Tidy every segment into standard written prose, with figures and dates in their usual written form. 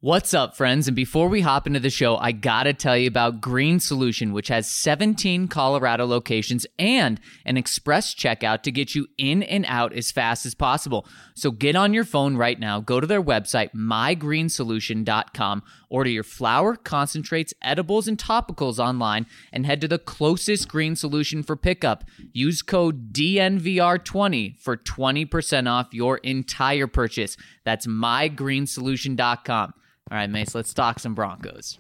What's up, friends? And before we hop into the show, I gotta tell you about Green Solution, which has 17 Colorado locations and an express checkout to get you in and out as fast as possible. So get on your phone right now, go to their website, mygreensolution.com, order your flour, concentrates, edibles, and topicals online, and head to the closest Green Solution for pickup. Use code DNVR20 for 20% off your entire purchase. That's mygreensolution.com. All right, Mace, let's talk some Broncos.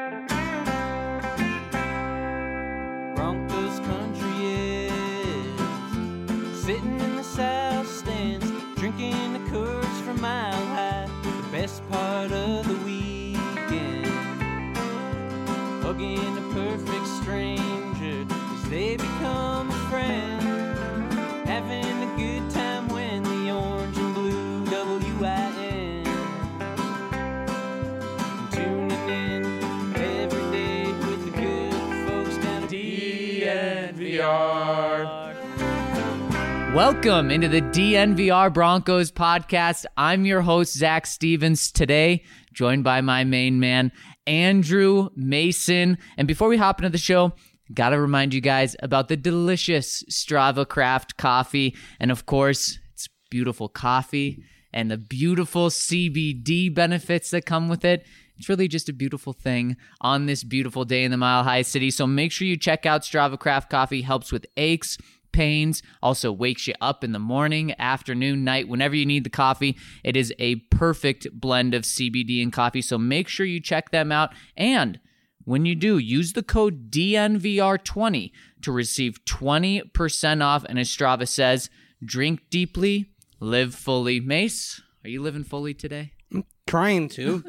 Broncos country is sitting in the south stands, drinking the Coors from Mile High, the best part of the weekend, hugging a perfect stranger as they become a friend, having a good time when the orange and blue WIN. Welcome into the DNVR Broncos podcast. I'm your host, Zach Stevens, today joined by my main man, Andrew Mason. And before we hop into the show, gotta remind you guys about the delicious Strava Craft coffee. And of course, it's beautiful coffee and the beautiful CBD benefits that come with it. It's really just a beautiful thing on this beautiful day in the Mile High City. So make sure you check out Strava Craft Coffee. Helps with aches, pains, also wakes you up in the morning, afternoon, night, whenever you need the coffee. It is a perfect blend of CBD and coffee. So make sure you check them out. And when you do, use the code DNVR20 to receive 20% off. And as Strava says, drink deeply, live fully. Mace, are you living fully today? Trying to.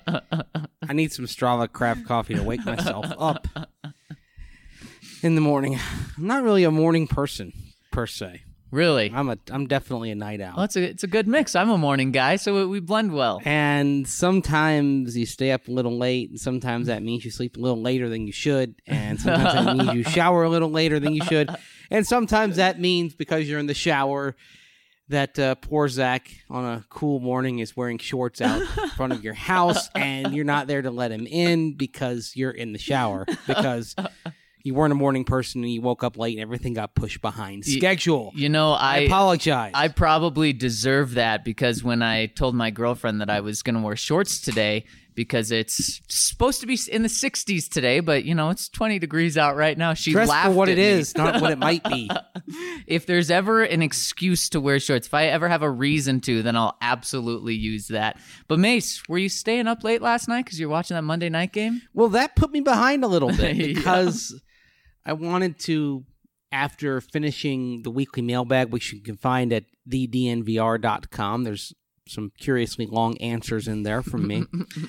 I need some Strava Craft coffee to wake myself up in the morning. I'm not really a morning person per se. Really? I'm definitely a night owl. Well, it's a good mix. I'm a morning guy, so we blend well. And sometimes you stay up a little late, and sometimes that means you sleep a little later than you should, and sometimes that means you shower a little later than you should, and sometimes that means because you're in the shower that poor Zach on a cool morning is wearing shorts out in front of your house, and you're not there to let him in because you're in the shower, because you weren't a morning person and you woke up late and everything got pushed behind schedule. You know, I apologize. I probably deserve that because when I told my girlfriend that I was going to wear shorts today, because it's supposed to be in the 60s today, but, you know, it's 20 degrees out right now. She Dress laughed for what at it me. is, not what it might be. If there's ever an excuse to wear shorts, if I ever have a reason to, then I'll absolutely use that. But Mace, were you staying up late last night because you're watching that Monday night game? Well, that put me behind a little bit Yeah. because I wanted to, after finishing the weekly mailbag, which you can find at thednvr.com. There's some curiously long answers in there from me.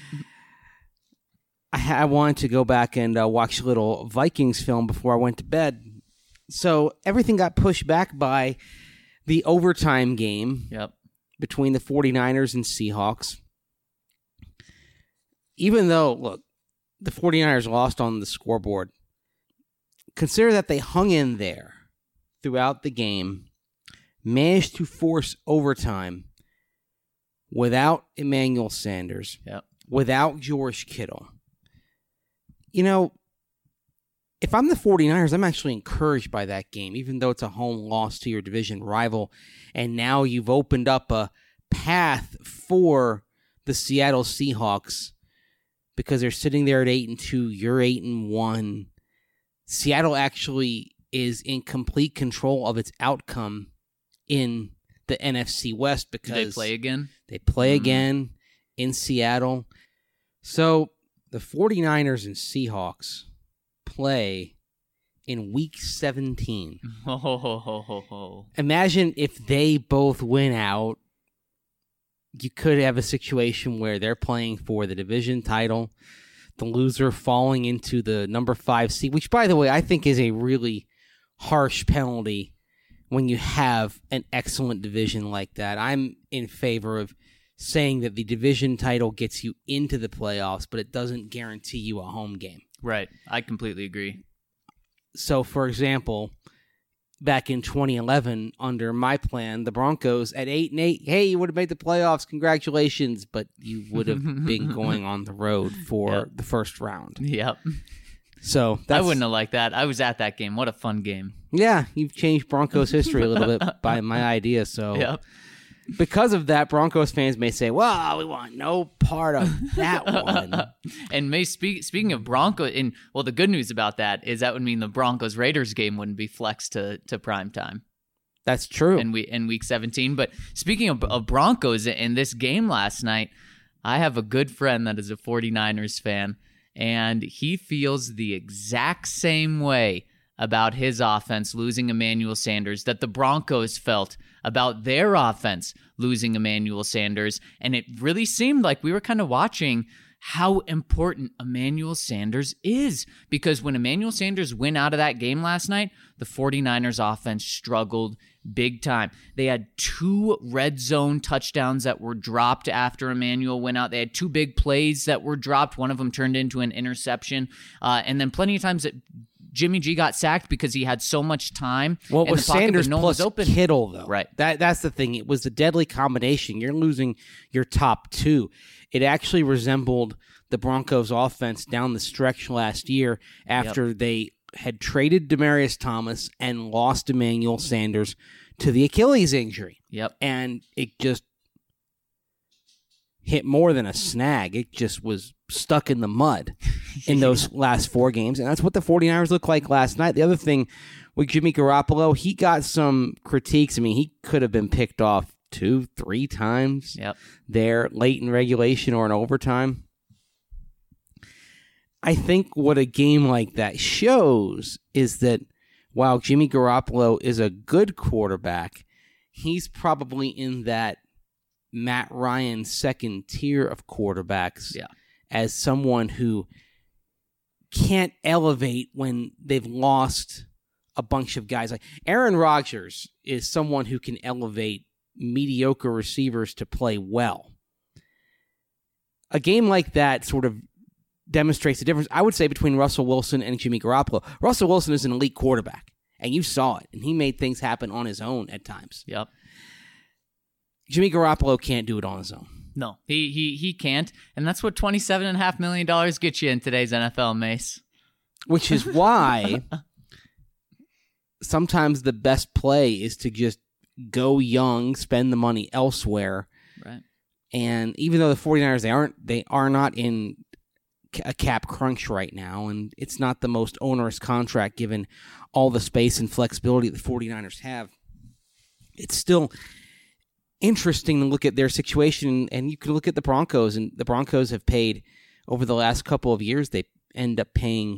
I wanted to go back and watch a little Vikings film before I went to bed. So everything got pushed back by the overtime game between the 49ers and Seahawks. Even though, look, the 49ers lost on the scoreboard, consider that they hung in there throughout the game, managed to force overtime without Emmanuel Sanders, without George Kittle. You know, if I'm the 49ers, I'm actually encouraged by that game, even though it's a home loss to your division rival. And now you've opened up a path for the Seattle Seahawks because they're sitting there at 8-2. You're 8-1. Seattle actually is in complete control of its outcome in the NFC West because Did they play again? They play again in Seattle. So the 49ers and Seahawks play in Week 17. Imagine if they both win out. You could have a situation where they're playing for the division title, the loser falling into the number 5 seed, which, by the way, I think is a really harsh penalty when you have an excellent division like that. I'm in favor of saying that the division title gets you into the playoffs, but it doesn't guarantee you a home game. Right. I completely agree. So, for example, back in 2011 under my plan, the Broncos at 8-8. Hey, you would have made the playoffs. Congratulations, but you would have been going on the road for the first round. Yep. So I wouldn't have liked that. I was at that game. What a fun game. Yeah, you've changed Broncos history a little bit by my idea. So Yep. because of that, Broncos fans may say, well, we want no part of that one. And speaking of Broncos, the good news about that is that would mean the Broncos-Raiders game wouldn't be flexed to prime time. That's true. In week 17. But speaking of Broncos, in this game last night, I have a good friend that is a 49ers fan, and he feels the exact same way about his offense losing Emmanuel Sanders that the Broncos felt about their offense losing Emmanuel Sanders. And it really seemed like we were kind of watching how important Emmanuel Sanders is. Because when Emmanuel Sanders went out of that game last night, the 49ers offense struggled big time. They had 2 red zone touchdowns that were dropped after Emmanuel went out. They had 2 big plays that were dropped. One of them turned into an interception. And then plenty of times that Jimmy G got sacked because he had so much time. Well, it in was the pocket, Sanders but no one plus was open. Kittle, though. Right. That's the thing. It was a deadly combination. You're losing your top 2. It actually resembled the Broncos' offense down the stretch last year after they had traded Demaryius Thomas and lost Emmanuel Sanders to the Achilles injury. Yep. And it just hit more than a snag. It just was stuck in the mud in those last 4 games. And that's what the 49ers looked like last night. The other thing with Jimmy Garoppolo, he got some critiques. I mean, he could have been picked off 2-3 times there late in regulation or in overtime. I think what a game like that shows is that while Jimmy Garoppolo is a good quarterback, he's probably in that Matt Ryan second tier of quarterbacks as someone who can't elevate when they've lost a bunch of guys. Like Aaron Rodgers is someone who can elevate mediocre receivers to play well. A game like that sort of demonstrates the difference, I would say, between Russell Wilson and Jimmy Garoppolo. Russell Wilson is an elite quarterback, and you saw it, and he made things happen on his own at times. Yep. Jimmy Garoppolo can't do it on his own. No, he can't, and that's what $27.5 million gets you in today's NFL, Mace. Which is why sometimes the best play is to just go young, spend the money elsewhere. Right. And even though the 49ers, they are not in a cap crunch right now, and it's not the most onerous contract given all the space and flexibility the 49ers have, it's still interesting to look at their situation. And you can look at the Broncos, and the Broncos have paid over the last couple of years, they end up paying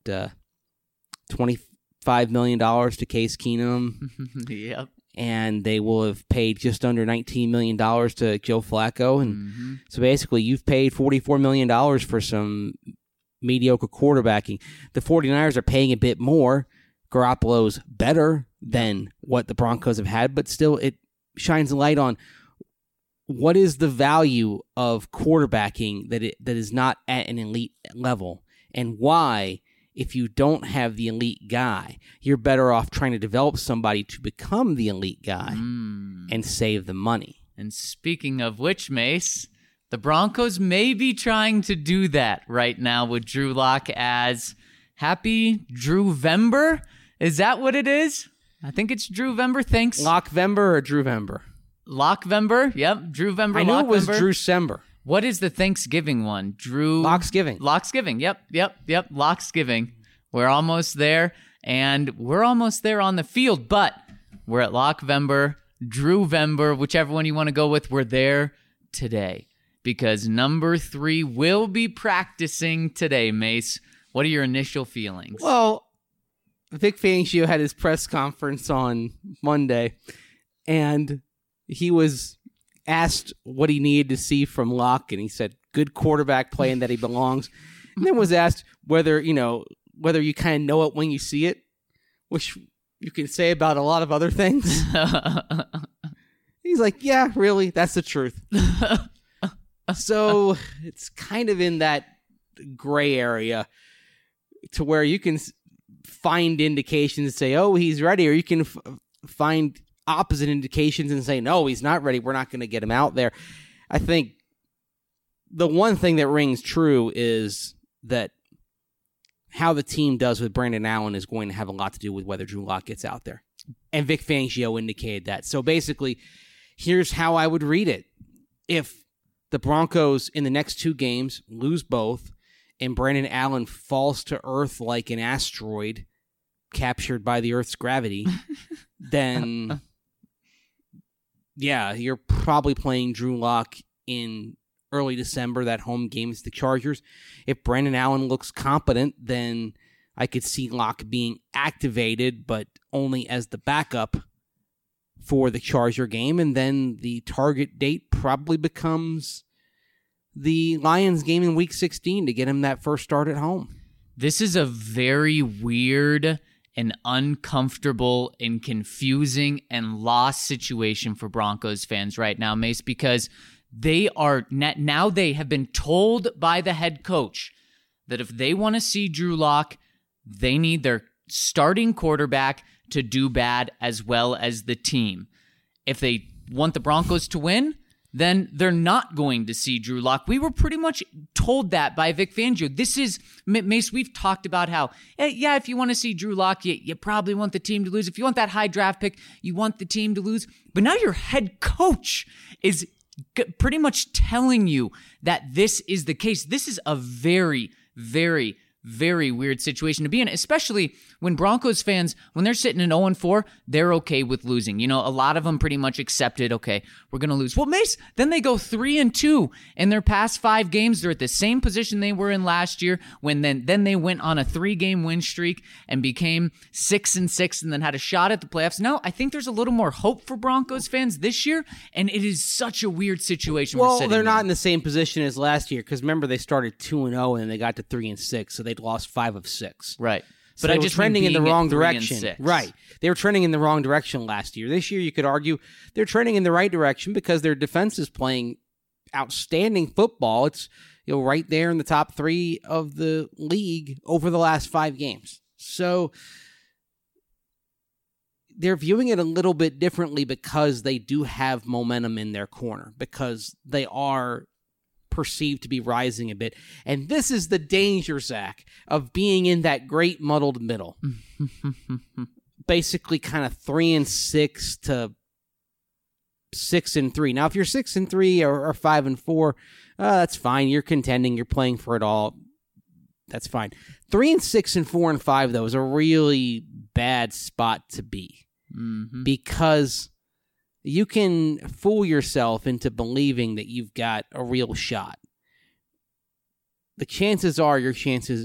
$25 million to Case Keenum. Yep. And they will have paid just under $19 million to Joe Flacco. And so basically you've paid $44 million for some mediocre quarterbacking. The 49ers are paying a bit more. Garoppolo's better than what the Broncos have had, but still it shines a light on what is the value of quarterbacking that is not at an elite level, and why, if you don't have the elite guy, you're better off trying to develop somebody to become the elite guy and save the money. And speaking of which, Mace, the Broncos may be trying to do that right now with Drew Lock as Happy Drewvember. Is that what it is? I think it's Drewvember. Thanks. Lockvember or Drewvember? Lockvember. Yep. Drewvember. I knew it was Drewcember. What is the Thanksgiving one? Locksgiving. Yep. Locksgiving. We're almost there, and we're almost there on the field, but we're at Lockvember, Drewvember, whichever one you want to go with. We're there today because number 3 will be practicing today, Mace. What are your initial feelings? Well, Vic Fangio had his press conference on Monday, and he was asked what he needed to see from Locke, and he said, good quarterback play and that he belongs. And then was asked whether you kind of know it when you see it, which you can say about a lot of other things. He's like, yeah, really, that's the truth. So it's kind of in that gray area to where you can find indications and say, oh, he's ready, or you can find opposite indications and say, no, he's not ready. We're not going to get him out there. I think the one thing that rings true is that how the team does with Brandon Allen is going to have a lot to do with whether Drew Lock gets out there. And Vic Fangio indicated that. So basically, here's how I would read it. If the Broncos in the next 2 games lose both and Brandon Allen falls to earth like an asteroid captured by the Earth's gravity, then yeah, you're probably playing Drew Lock in early December, that home game is the Chargers. If Brandon Allen looks competent, then I could see Lock being activated, but only as the backup for the Charger game, and then the target date probably becomes the Lions game in Week 16 to get him that first start at home. This is a very weird and uncomfortable and confusing and lost situation for Broncos fans right now, Mace, because they have been told by the head coach that if they want to see Drew Lock, they need their starting quarterback to do bad as well as the team. If they want the Broncos to win, then they're not going to see Drew Lock. We were pretty much told that by Vic Fangio. This is, Mace, we've talked about how, yeah, if you want to see Drew Lock, you probably want the team to lose. If you want that high draft pick, you want the team to lose. But now your head coach is pretty much telling you that this is the case. This is a very, very, very weird situation to be in, especially when Broncos fans, when they're sitting in 0-4, they're okay with losing. You know, a lot of them pretty much accepted, okay, we're going to lose. Well, Mace, then they go 3-2 in their past 5 games. They're at the same position they were in last year when then they went on a 3-game win streak and became 6-6 and then had a shot at the playoffs. Now, I think there's a little more hope for Broncos fans this year, and it is such a weird situation. Well, they're not in the same position as last year because remember they started 2-0 and they got to 3-6, so they'd lost 5 of 6. Right. So but they were trending in the wrong direction. Right. They were trending in the wrong direction last year. This year, you could argue they're trending in the right direction because their defense is playing outstanding football. It's right there in the top 3 of the league over the last 5 games. So they're viewing it a little bit differently because they do have momentum in their corner, because they are perceived to be rising a bit. And this is the danger, Zach, of being in that great muddled middle. Basically kind of 3-6 to 6-3. Now, if you're 6-3 or 5-4, that's fine. You're contending. You're playing for it all. That's fine. 3-6 and 4-5, though, is a really bad spot to be. Because you can fool yourself into believing that you've got a real shot. The chances are your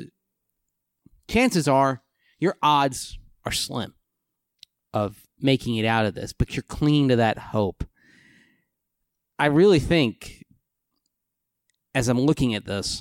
odds are slim of making it out of this, but you're clinging to that hope. I really think, as I'm looking at this,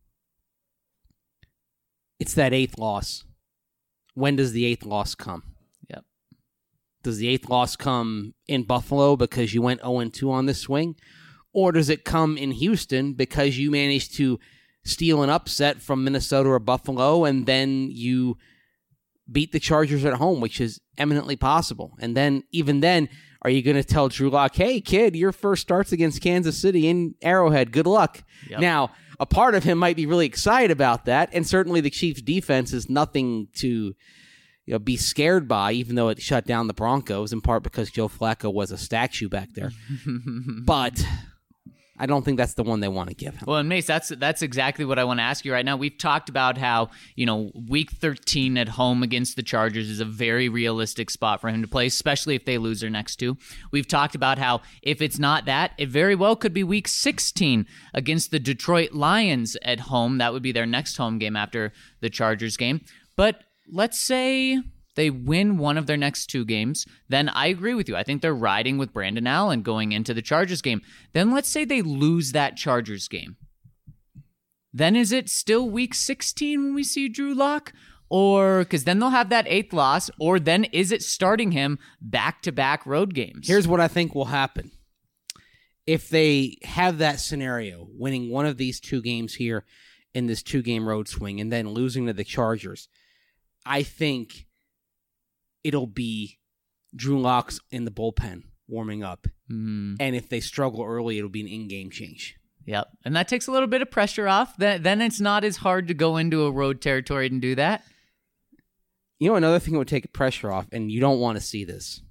it's that 8th loss. When does the 8th loss come? Does the 8th loss come in Buffalo because you went 0-2 on this swing? Or does it come in Houston because you managed to steal an upset from Minnesota or Buffalo and then you beat the Chargers at home, which is eminently possible? And then, even then, are you going to tell Drew Lock, hey, kid, your first start's against Kansas City in Arrowhead. Good luck. Yep. Now, a part of him might be really excited about that, and certainly the Chiefs' defense is nothing to be scared by, even though it shut down the Broncos, in part because Joe Flacco was a statue back there. But I don't think that's the one they want to give him. Well, and Mace, that's exactly what I want to ask you right now. We've talked about how, Week 13 at home against the Chargers is a very realistic spot for him to play, especially if they lose their next 2. We've talked about how if it's not that, it very well could be Week 16 against the Detroit Lions at home. That would be their next home game after the Chargers game. But let's say they win one of their next 2 games, then I agree with you. I think they're riding with Brandon Allen going into the Chargers game. Then let's say they lose that Chargers game. Then is it still Week 16 when we see Drew Lock? Or, because then they'll have that 8th loss, or then is it starting him back-to-back road games? Here's what I think will happen. If they have that scenario, winning one of these 2 games here in this 2-game road swing and then losing to the Chargers, I think it'll be Drew Lock's in the bullpen warming up. And if they struggle early, it'll be an in-game change. Yep. And that takes a little bit of pressure off. Then it's not as hard to go into a road territory and do that. You know, another thing that would take pressure off, and you don't want to see this,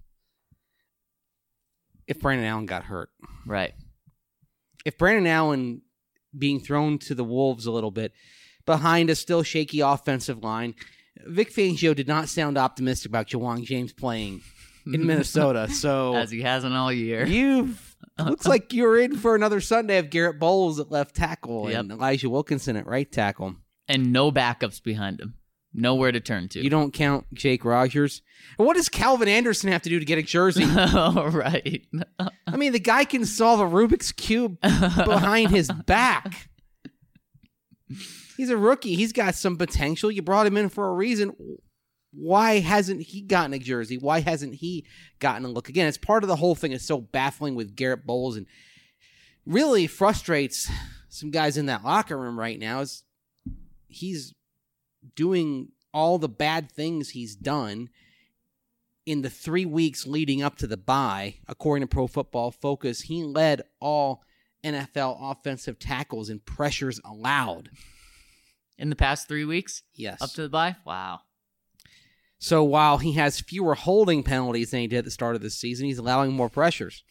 if Brandon Allen got hurt. Right. If Brandon Allen being thrown to the wolves a little bit behind a still shaky offensive line, Vic Fangio did not sound optimistic about Ja'Wuan James playing in Minnesota. So as he hasn't all year. Looks like you're in for another Sunday of Garrett Bowles at left tackle and Yep. Elijah Wilkinson at right tackle. And no backups behind him. Nowhere to turn to. You don't count Jake Rogers. And what does Calvin Anderson have to do to get a jersey? Oh, right. I mean, the guy can solve a Rubik's Cube behind his back. He's a rookie. He's got some potential. You brought him in for a reason. Why hasn't he gotten a jersey? Why hasn't he gotten a look? Again, it's part of the whole thing that's so baffling with Garrett Bowles and really frustrates some guys in that locker room right now is he's doing all the bad things he's done in the 3 weeks leading up to the bye. According to Pro Football Focus, he led all NFL offensive tackles in pressures allowed. In the past 3 weeks? Yes. Up to the bye? Wow. So while he has fewer holding penalties than he did at the start of the season, he's allowing more pressures.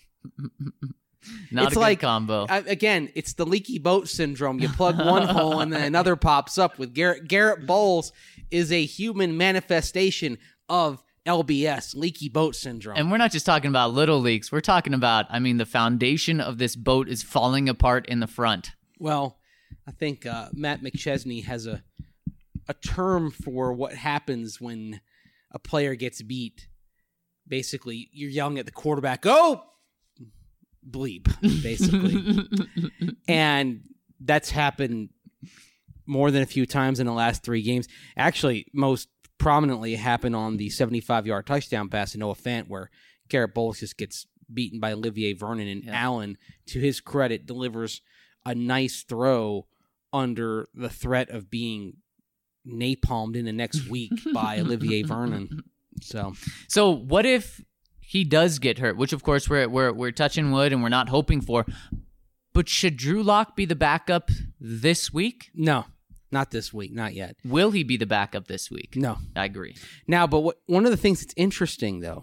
Not It's a like, good combo. Again, it's the leaky boat syndrome. You plug one hole and then another pops up with Garrett. Garrett Bowles is a human manifestation of LBS, leaky boat syndrome. And we're not just talking about little leaks. We're talking about, the foundation of this boat is falling apart in the front. Well, I think Matt McChesney has a term for what happens when a player gets beat. Basically, you're yelling at the quarterback, "Go!" bleep, basically. And that's happened more than a few times in the last 3 games. Actually, most prominently it happened on the 75-yard touchdown pass to Noah Fant, where Garrett Bowles just gets beaten by Olivier Vernon, and Allen, to his credit, delivers a nice throw under the threat of being napalmed in the next week by Olivier Vernon. So what if he does get hurt, which of course we're touching wood and we're not hoping for, but should Drew Lock be the backup this week? No, not this week, not yet. Will he be the backup this week? No. I agree. Now, but one of the things that's interesting, though,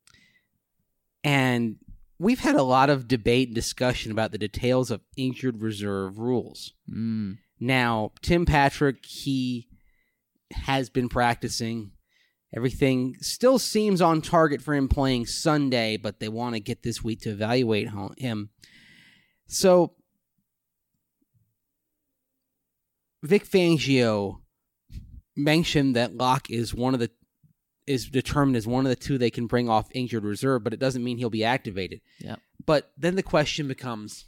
and we've had a lot of debate and discussion about the details of injured reserve rules. Now, Tim Patrick, he has been practicing. Everything still seems on target for him playing Sunday, but they want to get this week to evaluate him. So, Vic Fangio mentioned that Locke is determined as one of the 2 they can bring off injured reserve, but it doesn't mean he'll be activated. Yeah. But then the question becomes,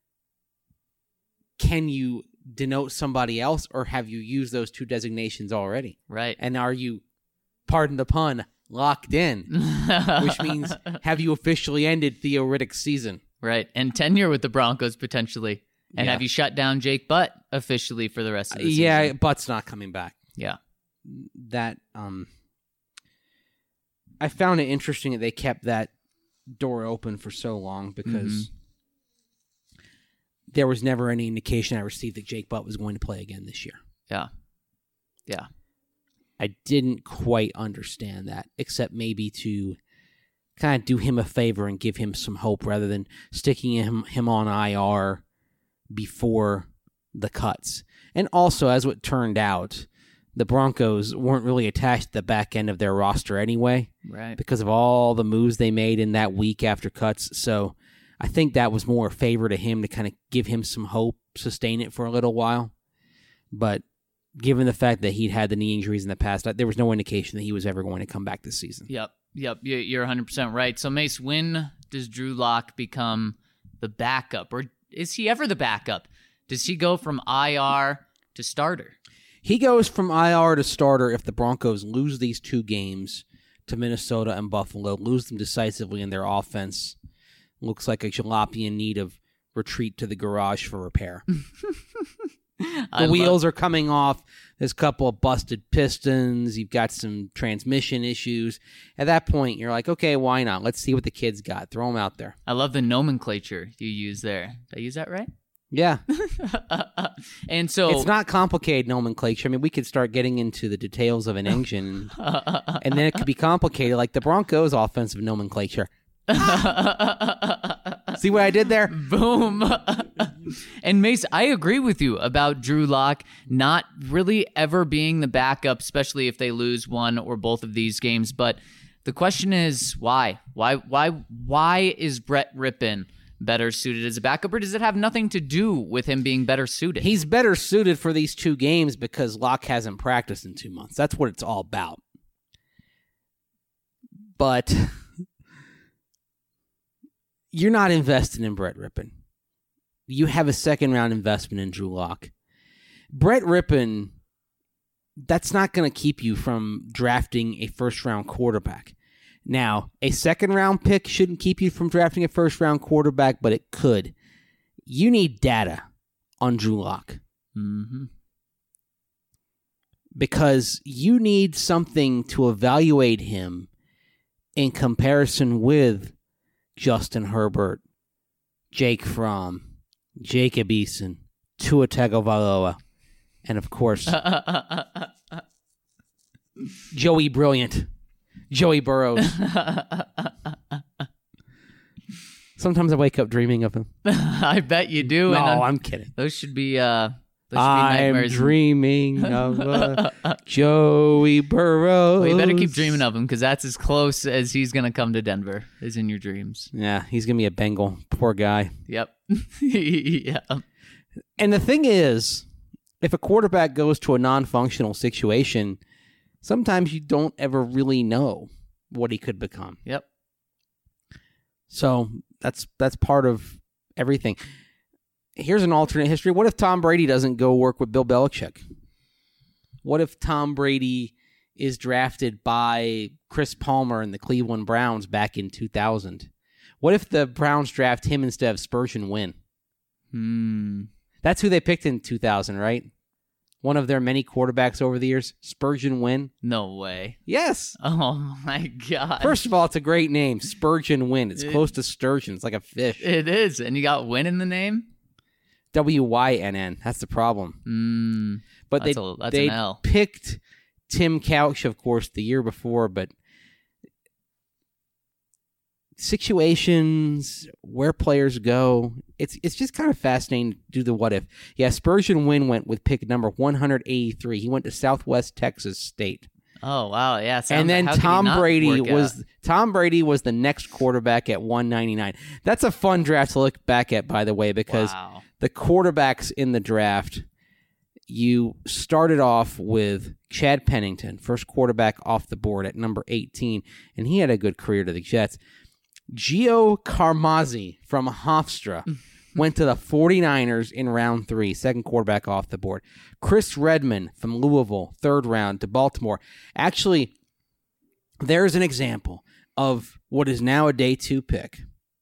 can you denote somebody else, or have you used those 2 designations already? Right. And are you, pardon the pun, locked in? Which means, have you officially ended Theo Riddick's season? Right. And tenure with the Broncos potentially. And have you shut down Jake Butt officially for the rest of the season? Yeah, Butt's not coming back. Yeah. That I found it interesting that they kept that door open for so long, because there was never any indication I received that Jake Butt was going to play again this year. Yeah. Yeah. I didn't quite understand that, except maybe to kind of do him a favor and give him some hope rather than sticking him on IR before the cuts. And also, as it turned out, the Broncos weren't really attached to the back end of their roster anyway, Right. because of all the moves they made in that week after cuts. So I think that was more a favor to him to kind of give him some hope, sustain it for a little while. But given the fact that he'd had the knee injuries in the past, there was no indication that he was ever going to come back this season. Yep. You're 100% right. So, Mace, when does Drew Lock become the backup? Or is he ever the backup? Does he go from IR to starter? He goes from IR to starter if the Broncos lose these 2 games to Minnesota and Buffalo, lose them decisively in their offense. Looks like a jalopy in need of retreat to the garage for repair. The wheels are coming off. There's a couple of busted pistons. You've got some transmission issues. At that point, you're like, okay, why not? Let's see what the kids got. Throw them out there. I love the nomenclature you use there. Did I use that right? Yeah. And so It's not complicated nomenclature. I mean, we could start getting into the details of an engine, and then it could be complicated, like the Broncos' offensive nomenclature. See what I did there? Boom. And Mace, I agree with you about Drew Lock not really ever being the backup, especially if they lose one or both of these games. But the question is, why? Why is Brett Rippon better suited as a backup, or does it have nothing to do with him being better suited? He's better suited for these 2 games because Locke hasn't practiced in 2 months. That's what it's all about. But you're not invested in Brett Rippon. You have a second-round investment in Drew Lock. Brett Rippon, that's not going to keep you from drafting a first-round quarterback. Now, a second-round pick shouldn't keep you from drafting a first-round quarterback, but it could. You need data on Drew Lock. Mm-hmm. Because you need something to evaluate him in comparison with Justin Herbert, Jake Fromm, Jacob Eason, Tua Tagovailoa, and of course, Joey Brilliant. Joey Burrows. Sometimes I wake up dreaming of him. I bet you do. No, and I'm kidding. those should be I'm I'm dreaming of Joey Burrows. Well, you better keep dreaming of him because that's as close as he's going to come to Denver, is in your dreams. Yeah, he's going to be a Bengal. Poor guy. Yep. Yeah. And the thing is, if a quarterback goes to a non-functional situation, sometimes you don't ever really know what he could become. Yep. So that's part of everything. Here's an alternate history. What if Tom Brady doesn't go work with Bill Belichick? What if Tom Brady is drafted by Chris Palmer and the Cleveland Browns back in 2000? What if the Browns draft him instead of Spurgeon Wynn? That's who they picked in 2000, right? One of their many quarterbacks over the years, Spurgeon Wynn. No way. Yes. Oh, my God. First of all, it's a great name, Spurgeon Wynn. It's close to sturgeon. It's like a fish. It is. And you got Wynn in the name? Wynn. That's the problem. But That's they an L. picked Tim Couch, of course, the year before, but situations, where players go, it's just kind of fascinating to do the what if. Yeah, Spurgeon Wynn went with pick number 183. He went to Southwest Texas State. Oh, wow. Yeah. And then Tom Brady was the next quarterback at 199. That's a fun draft to look back at, by the way, because the quarterbacks in the draft, you started off with Chad Pennington, first quarterback off the board at number 18, and he had a good career to the Jets. Gio Carmazzi from Hofstra went to the 49ers in round 3, second quarterback off the board. Chris Redman from Louisville, third round to Baltimore. Actually, there's an example of what is now a day 2 pick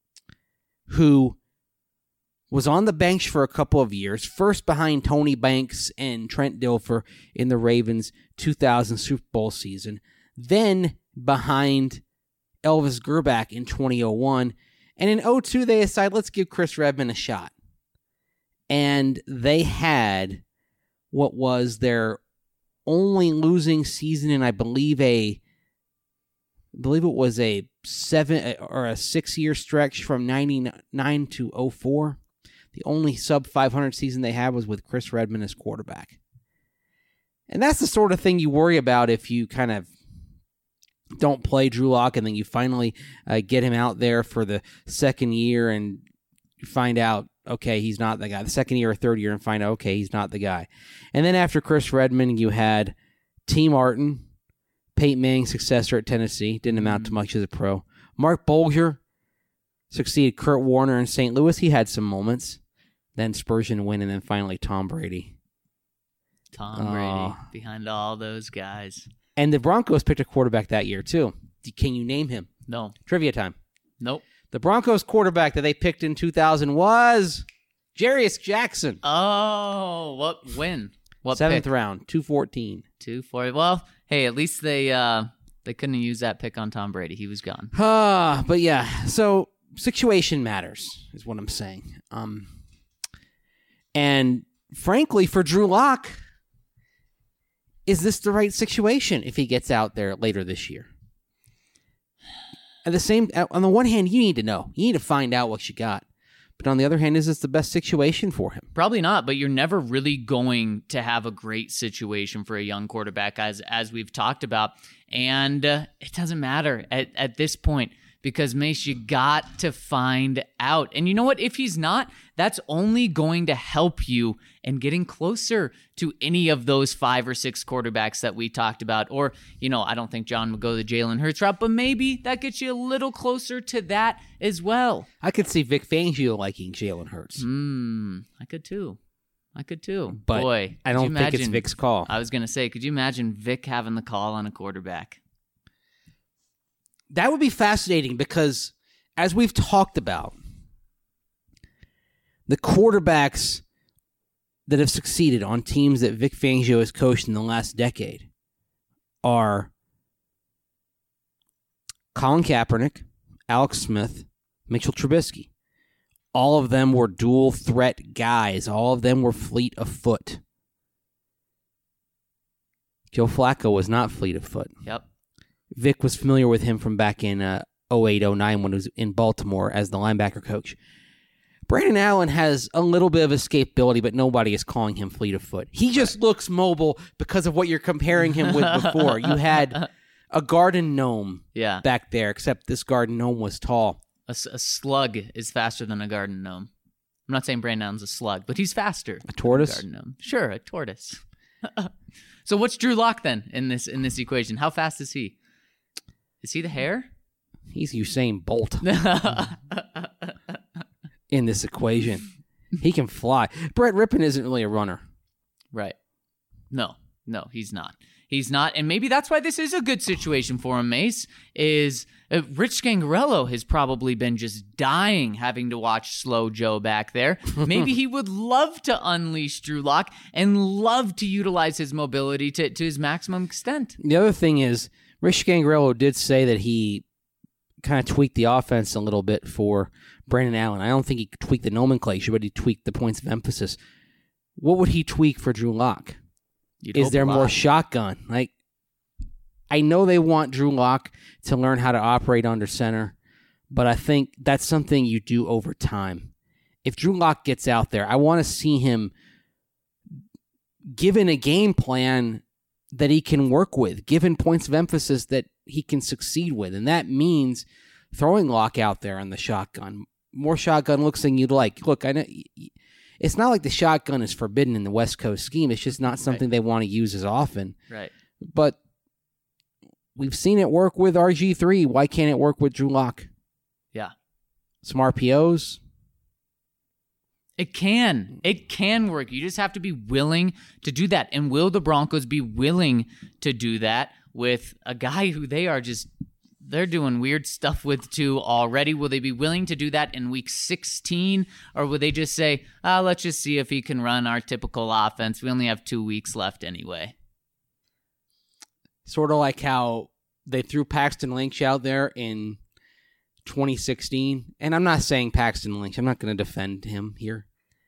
who was on the bench for a couple of years, first behind Tony Banks and Trent Dilfer in the Ravens' 2000 Super Bowl season, then behind Elvis Grbac in 2001, and in 2002 they decided, let's give Chris Redman a shot. And they had what was their only losing season in, I believe it was a 7 or a 6-year stretch from 99 to 04. The only sub 500 season they had was with Chris Redman as quarterback. And that's the sort of thing you worry about if you kind of don't play Drew Lock and then you finally get him out there for the second year and you find out, okay, he's not the guy. The second year or third year and find out, okay, he's not the guy. And then after Chris Redman, you had T. Martin, Peyton Manning's successor at Tennessee, didn't amount to much as a pro. Mark Bolger succeeded Kurt Warner in St. Louis. He had some moments. Then Spurgeon Wynn, and then finally Tom Brady. Tom Brady behind all those guys. And the Broncos picked a quarterback that year, too. Can you name him? No. Trivia time. Nope. The Broncos quarterback that they picked in 2000 was Jarius Jackson. Oh, what win? What 7th pick? round, 214. 240. Well, hey, at least they couldn't use that pick on Tom Brady. He was gone. But yeah, so situation matters is what I'm saying. And frankly, for Drew Lock, is this the right situation if he gets out there later this year? On the one hand, you need to know. You need to find out what you got. But on the other hand, is this the best situation for him? Probably not, but you're never really going to have a great situation for a young quarterback, as we've talked about. And it doesn't matter at this point because, Mace, you got to find out. And you know what? If he's not, that's only going to help you in getting closer to any of those 5 or 6 quarterbacks that we talked about. Or, I don't think John would go the Jalen Hurts route, but maybe that gets you a little closer to that as well. I could see Vic Fangio liking Jalen Hurts. I could too. But boy, I don't think it's Vic's call. I was going to say, could you imagine Vic having the call on a quarterback? That would be fascinating because, as we've talked about, the quarterbacks that have succeeded on teams that Vic Fangio has coached in the last decade are Colin Kaepernick, Alex Smith, Mitchell Trubisky. All of them were dual threat guys. All of them were fleet of foot. Joe Flacco was not fleet of foot. Yep. Vic was familiar with him from back in 08-09 when he was in Baltimore as the linebacker coach. Brandon Allen has a little bit of escapability, but nobody is calling him fleet of foot. He just looks mobile because of what you're comparing him with before. You had a garden gnome back there, except this garden gnome was tall. A slug is faster than a garden gnome. I'm not saying Brandon Allen's a slug, but he's faster. A tortoise? Than a garden gnome. Sure, a tortoise. So what's Drew Lock then in this equation? How fast is he? Is he the hare? He's Usain Bolt in this equation. He can fly. Brett Rippon isn't really a runner. Right. No, he's not. He's not, and maybe that's why this is a good situation for him, Mace, is Rich Scangarello has probably been just dying having to watch Slow Joe back there. Maybe he would love to unleash Drew Lock and love to utilize his mobility to his maximum extent. The other thing is, Rich Scangarello did say that he kind of tweaked the offense a little bit for Brandon Allen. I don't think he tweaked the nomenclature, but he tweaked the points of emphasis. What would he tweak for Drew Lock? Is there more shotgun? Like, I know they want Drew Lock to learn how to operate under center, but I think that's something you do over time. If Drew Lock gets out there, I want to see him given a game plan that he can work with, given points of emphasis that he can succeed with. And that means throwing Lock out there on the shotgun. More shotgun looks than you'd like. Look, I know it's not like the shotgun is forbidden in the West Coast scheme. It's just not something they want to use as often. Right. But we've seen it work with RG3. Why can't it work with Drew Lock? Yeah. Some RPOs. It can work. You just have to be willing to do that. And will the Broncos be willing to do that with a guy who they're doing weird stuff with too already? Will they be willing to do that in week 16? Or will they just say, let's just see if he can run our typical offense. We only have 2 weeks left anyway. Sort of like how they threw Paxton Lynch out there in 2016. And I'm not saying Paxton Lynch. I'm not going to defend him here.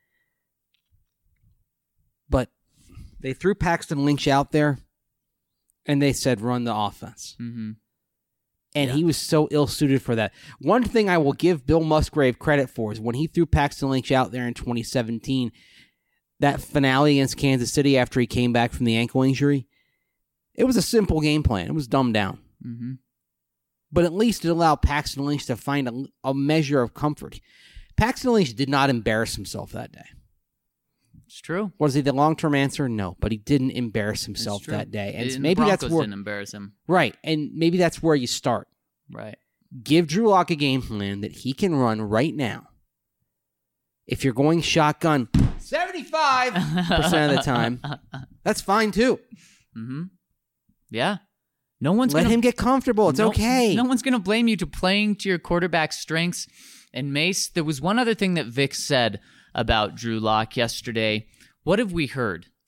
But they threw Paxton Lynch out there and they said, run the offense. Mm-hmm. And he was so ill-suited for that. One thing I will give Bill Musgrave credit for is when he threw Paxton Lynch out there in 2017, that finale against Kansas City after he came back from the ankle injury, it was a simple game plan. It was dumbed down. Mm-hmm. But at least it allowed Paxton Lynch to find a measure of comfort. Paxton Lynch did not embarrass himself that day. It's true. Was he the long-term answer? No, but he didn't embarrass himself that day. And maybe the Broncos that's where didn't embarrass him. Right, and maybe that's where you start. Right. Give Drew Lock a game plan that he can run right now. If you're going shotgun 75% of the time, that's fine too. Mm-hmm. Yeah. No one's Let him get comfortable. It's okay. No one's going to blame you to playing to your quarterback's strengths. And Mace, there was one other thing that Vic said about Drew Lock yesterday. What have we heard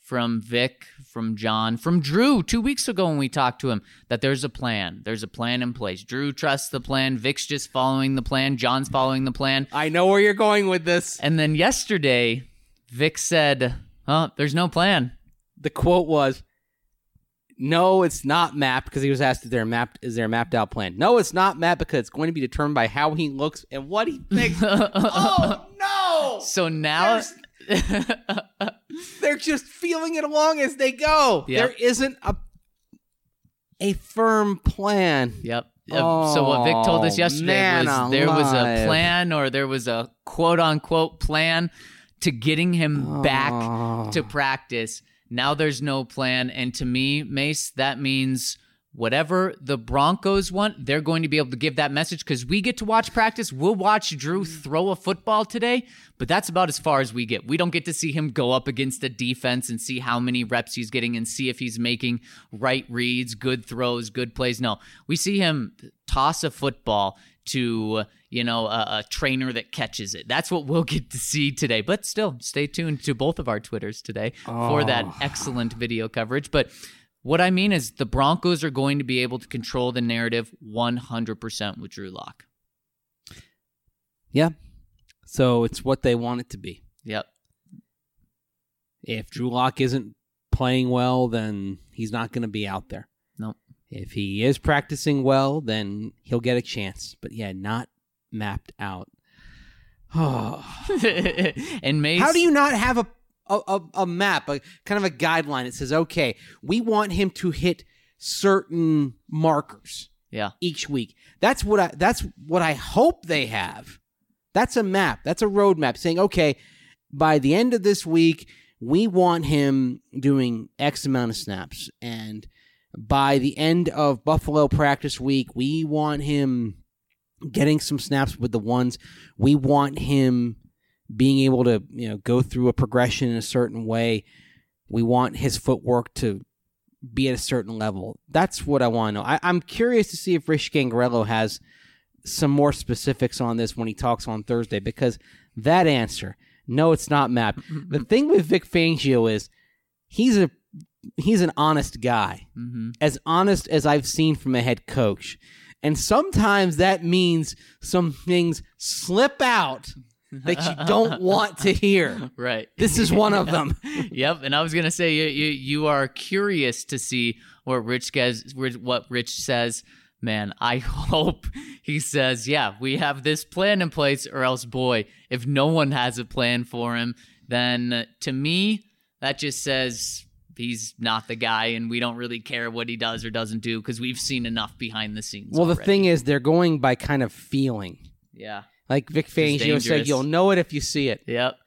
from Vic, from John, from Drew 2 weeks ago when we talked to him that there's a plan. There's a plan in place. Drew trusts the plan. Vic's just following the plan. John's following the plan. I know where you're going with this. And then yesterday, Vic said, there's no plan. The quote was, no, it's not mapped, because he was asked, is there a mapped out plan? No, it's not mapped because it's going to be determined by how he looks and what he thinks. Oh, no! So now... They're just feeling it along as they go. Yep. There isn't a firm plan. Yep. So what Vic told us yesterday was there was a plan, or there was a quote-unquote plan to getting him back to practice. Now there's no plan. And to me, Mace, that means whatever the Broncos want, they're going to be able to give that message, because we get to watch practice. We'll watch Drew throw a football today, but that's about as far as we get. We don't get to see him go up against the defense and see how many reps he's getting and see if he's making right reads, good throws, good plays. No, we see him toss a football to, a trainer that catches it. That's what we'll get to see today. But still, stay tuned to both of our Twitters today for that excellent video coverage. But what I mean is the Broncos are going to be able to control the narrative 100% with Drew Lock. Yeah. So it's what they want it to be. Yep. If Drew Lock isn't playing well, then he's not going to be out there. Nope. If he is practicing well, then he'll get a chance. But yeah, not mapped out. Oh. And Mace, how do you not have a map, a kind of a guideline that says, okay, we want him to hit certain markers each week. That's what I hope they have. That's a map. That's a roadmap saying, okay, by the end of this week, we want him doing X amount of snaps. And by the end of Buffalo practice week, we want him getting some snaps with the ones. We want him being able to, go through a progression in a certain way. We want his footwork to be at a certain level. That's what I want to know. I'm curious to see if Rich Gangarello has some more specifics on this when he talks on Thursday, because that answer, no, it's not mapped. The thing with Vic Fangio is he's an honest guy, as honest as I've seen from a head coach. And sometimes that means some things slip out that you don't want to hear. Right. This is one of them. Yep. And I was going to say, you are curious to see what Rich says. Man, I hope he says, yeah, we have this plan in place, or else, boy, if no one has a plan for him, then to me, that just says he's not the guy, and we don't really care what he does or doesn't do, because we've seen enough behind the scenes. Well, already. The thing is, they're going by kind of feeling. Yeah. Like Vic Fangio said, you'll know it if you see it. Yep.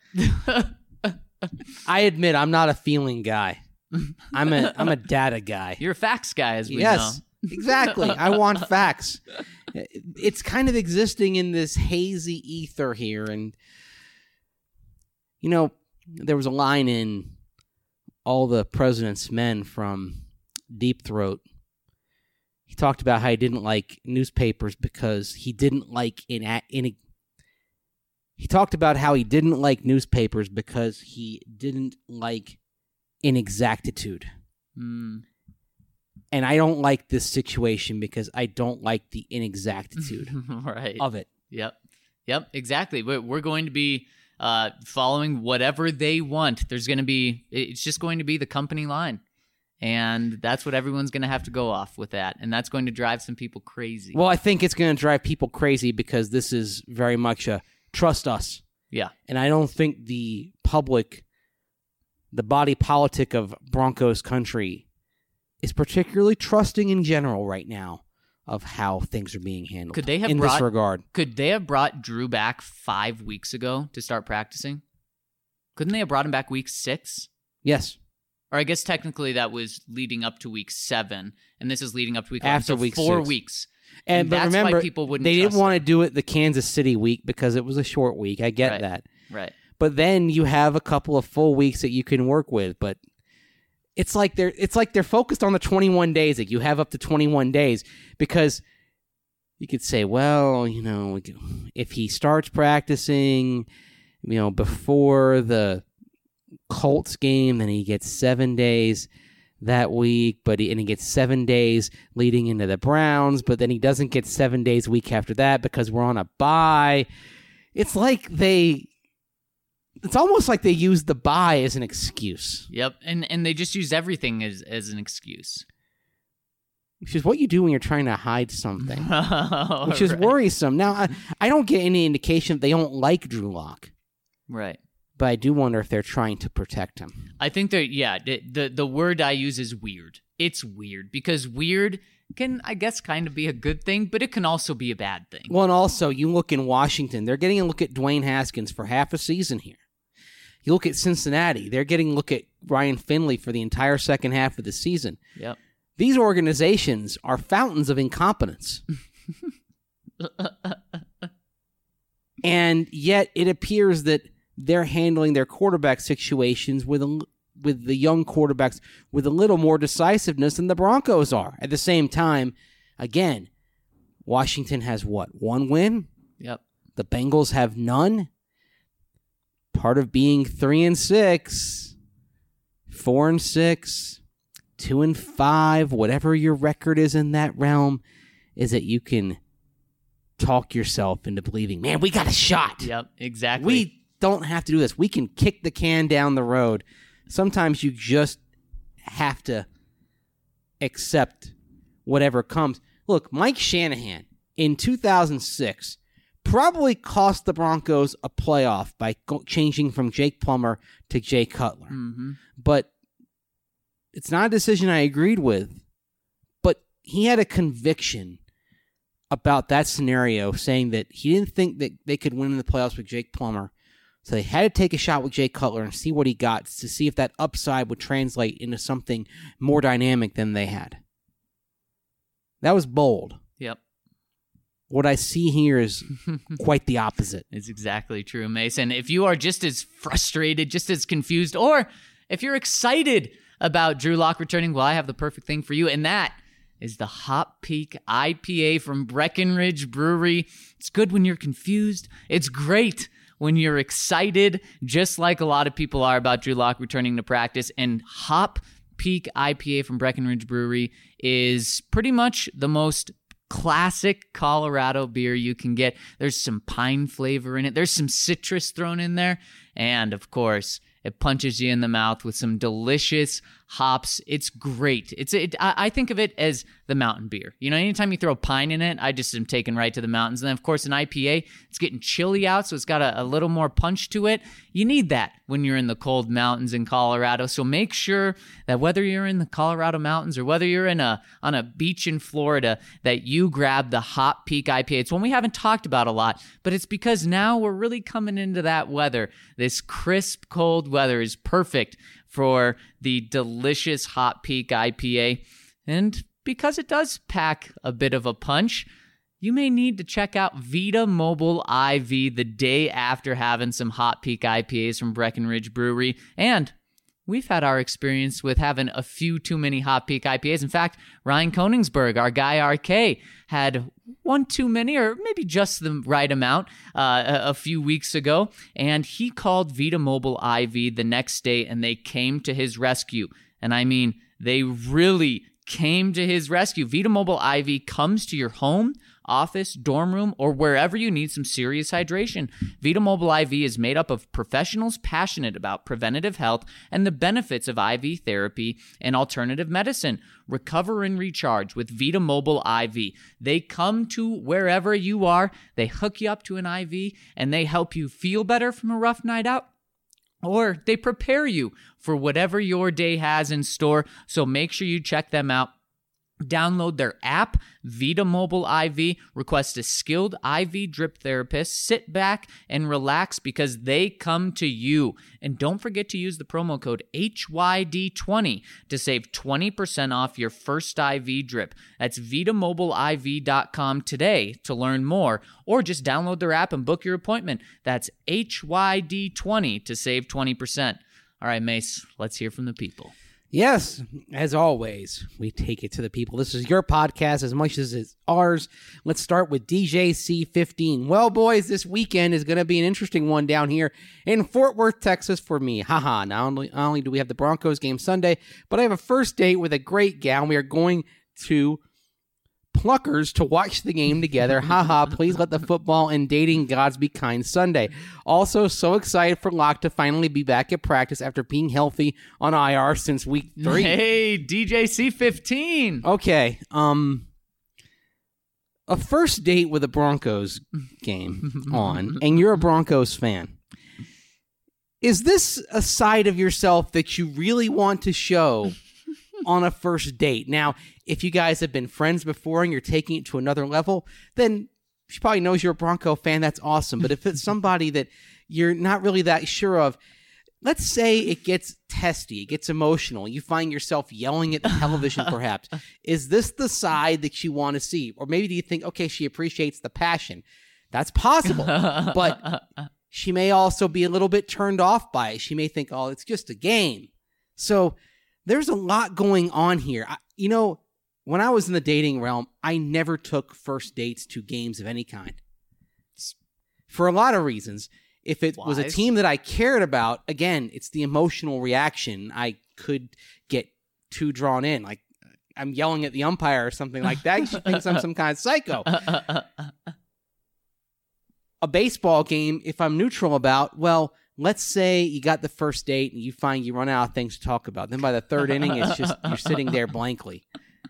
I admit I'm not a feeling guy. I'm a data guy. You're a facts guy, as we know. Yes, exactly. I want facts. It's kind of existing in this hazy ether here. And, there was a line in All the President's Men from Deep Throat. He talked about how he didn't like newspapers because he didn't like He talked about how he didn't like newspapers because he didn't like inexactitude. And I don't like this situation because I don't like the inexactitude of it. Yep, exactly. We're going to be following whatever they want. It's just going to be the company line. And that's what everyone's going to have to go off with that. And that's going to drive some people crazy. Well, I think it's going to drive people crazy because this is very much a trust us. Yeah. And I don't think the public, the body politic of Broncos country, is particularly trusting in general right now of how things are being handled. This regard. Could they have brought Drew back 5 weeks ago to start practicing? Couldn't they have brought him back week 6? Yes. Or I guess technically that was leading up to week 7, and this is leading up to week 11. After So week 4 6. weeks. And but that's remember, why people wouldn't they trust didn't want to do it the Kansas City week because it was a short week. I get that. Right. But then you have a couple of full weeks that you can work with. But it's like they're focused on the 21 days. That you have up to 21 days because you could say, well, if he starts practicing, before the Colts game, then he gets 7 days that week, and he gets 7 days leading into the Browns, but then he doesn't get 7 days a week after that because we're on a bye. It's almost like they use the bye as an excuse. Yep, and they just use everything as an excuse. Which is what you do when you're trying to hide something, which is Right. worrisome. Now, I don't get any indication that they don't like Drew Lock, Right. but I do wonder if they're trying to protect him. I think that, the word I use is weird. It's weird because weird can, I guess, kind of be a good thing, but it can also be a bad thing. Well, and also, you look in Washington, they're getting a look at Dwayne Haskins for half a season here. You look at Cincinnati, they're getting a look at Ryan Finley for the entire second half of the season. Yep. These organizations are fountains of incompetence. And yet it appears that they're handling their quarterback situations with the young quarterbacks with a little more decisiveness than the Broncos are. At the same time, again, Washington has what? 1 win? Yep. The Bengals have none. Part of being 3-6, 4-6, 2-5, whatever your record is in that realm, is that you can talk yourself into believing, man, we got a shot. Yep, exactly. We don't have to do this. We can kick the can down the road. Sometimes you just have to accept whatever comes. Look, Mike Shanahan in 2006 probably cost the Broncos a playoff by changing from Jake Plummer to Jay Cutler. Mm-hmm. But it's not a decision I agreed with. But he had a conviction about that scenario, saying that he didn't think that they could win in the playoffs with Jake Plummer. So they had to take a shot with Jay Cutler and see what he got to see if that upside would translate into something more dynamic than they had. That was bold. Yep. What I see here is quite the opposite. It's exactly true, Mason. If you are just as frustrated, just as confused, or if you're excited about Drew Lock returning, well, I have the perfect thing for you, and that is the Hop Peak IPA from Breckenridge Brewery. It's good when you're confused. It's great when you're excited, just like a lot of people are about Drew Lock returning to practice. And Hop Peak IPA from Breckenridge Brewery is pretty much the most classic Colorado beer you can get. There's some pine flavor in it. There's some citrus thrown in there. And, of course, it punches you in the mouth with some delicious hops. It's great. I think of it as the mountain beer. You know, anytime you throw pine in it, I just am taken right to the mountains. And then, of course, an IPA, it's getting chilly out, so it's got a little more punch to it. You need that when you're in the cold mountains in Colorado. So make sure that whether you're in the Colorado mountains or whether you're on a beach in Florida, that you grab the Hop Peak IPA. It's one we haven't talked about a lot, but it's because now we're really coming into that weather. This crisp, cold weather is perfect for the delicious Hop Peak IPA. And because it does pack a bit of a punch, you may need to check out Vita Mobile IV the day after having some Hop Peak IPAs from Breckenridge Brewery. And we've had our experience with having a few too many Hop Peak IPAs. In fact, Ryan Koningsberg, our guy RK, had one too many, or maybe just the right amount, a few weeks ago. And he called Vita Mobile IV the next day, and they came to his rescue. And I mean, they really came to his rescue. Vita Mobile IV comes to your home, office, dorm room, or wherever you need some serious hydration. Vita Mobile IV is made up of professionals passionate about preventative health and the benefits of IV therapy and alternative medicine. Recover and recharge with Vita Mobile IV. They come to wherever you are, they hook you up to an IV, and they help you feel better from a rough night out. Or they prepare you for whatever your day has in store. So make sure you check them out. Download their app, Vita Mobile IV. Request a skilled IV drip therapist. Sit back and relax because they come to you. And don't forget to use the promo code HYD20 to save 20% off your first IV drip. That's VitaMobileIV.com today to learn more, or just download their app and book your appointment. That's HYD20 to save 20%. All right, Mace, let's hear from the people. Yes, as always, we take it to the people. This is your podcast as much as it's ours. Let's start with DJC15. Well, boys, this weekend is going to be an interesting one down here in Fort Worth, Texas for me. Haha, not only do we have the Broncos game Sunday, but I have a first date with a great gal. We are going to Pluckers to watch the game together. Haha, please let the football and dating gods be kind Sunday. Also, so excited for Locke to finally be back at practice after being healthy on IR since week 3. Hey, DJC15. Okay, a first date with a Broncos game on, and you're a Broncos fan. Is this a side of yourself that you really want to show on a first date? Now, if you guys have been friends before and you're taking it to another level, then she probably knows you're a Bronco fan. That's awesome. But if it's somebody that you're not really that sure of, let's say it gets testy, it gets emotional, you find yourself yelling at the television perhaps. Is this the side that you want to see? Or maybe do you think, okay, she appreciates the passion? That's possible. But she may also be a little bit turned off by it. She may think, oh, it's just a game. So there's a lot going on here. When I was in the dating realm, I never took first dates to games of any kind. For a lot of reasons. If it was a team that I cared about, again, it's the emotional reaction. I could get too drawn in. Like, I'm yelling at the umpire or something like that. She thinks I'm some kind of psycho. A baseball game, if I'm neutral about, well, let's say you got the first date and you find you run out of things to talk about. Then by the third inning, it's just you're sitting there blankly.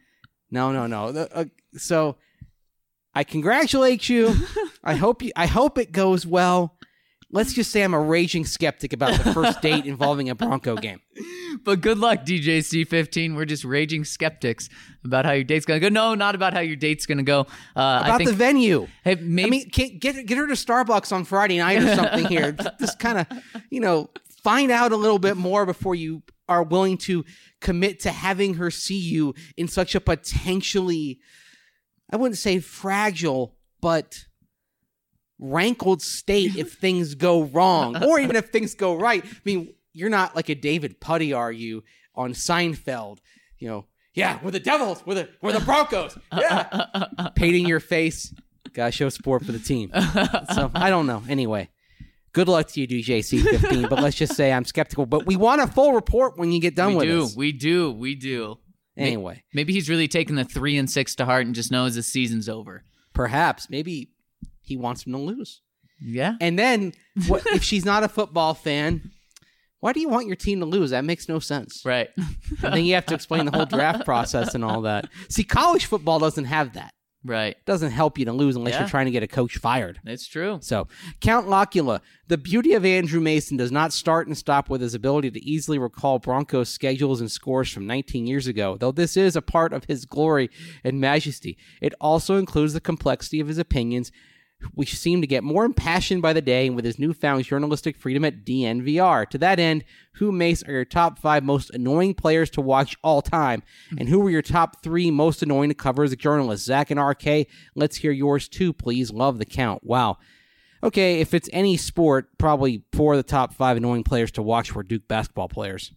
No. So I congratulate you. I hope it goes well. Let's just say I'm a raging skeptic about the first date involving a Bronco game. But good luck, DJC15. We're just raging skeptics about how your date's going to go. No, not about how your date's going to go. I think the venue. Hey, maybe, get her to Starbucks on Friday night or something here. Just kind of, find out a little bit more before you are willing to commit to having her see you in such a potentially, I wouldn't say fragile, but rankled state if things go wrong, or even if things go right. I mean, you're not like a David Puddy, are you, on Seinfeld? Yeah, we're the Devils, we're the Broncos, yeah, painting your face. Gotta show support for the team. So I don't know. Anyway, good luck to you, DJC15. But let's just say I'm skeptical. But we want a full report when you get done with us. We do. Anyway, maybe he's really taking the 3-6 to heart and just knows the season's over. Perhaps, maybe he wants him to lose. Yeah. And then, if she's not a football fan, why do you want your team to lose? That makes no sense. Right. And then you have to explain the whole draft process and all that. See, college football doesn't have that. Right. It doesn't help you to lose unless you're trying to get a coach fired. That's true. So, Count Locula, the beauty of Andrew Mason does not start and stop with his ability to easily recall Broncos schedules and scores from 19 years ago, though this is a part of his glory and majesty. It also includes the complexity of his opinions, which seem to get more impassioned by the day, and with his newfound journalistic freedom at DNVR. To that end, who, Mace, are your top 5 most annoying players to watch all time? And who are your top 3 most annoying to cover as a journalist? Zach and RK, let's hear yours too, please. Love the count. Wow. Okay, if it's any sport, probably 4 of the top 5 annoying players to watch were Duke basketball players.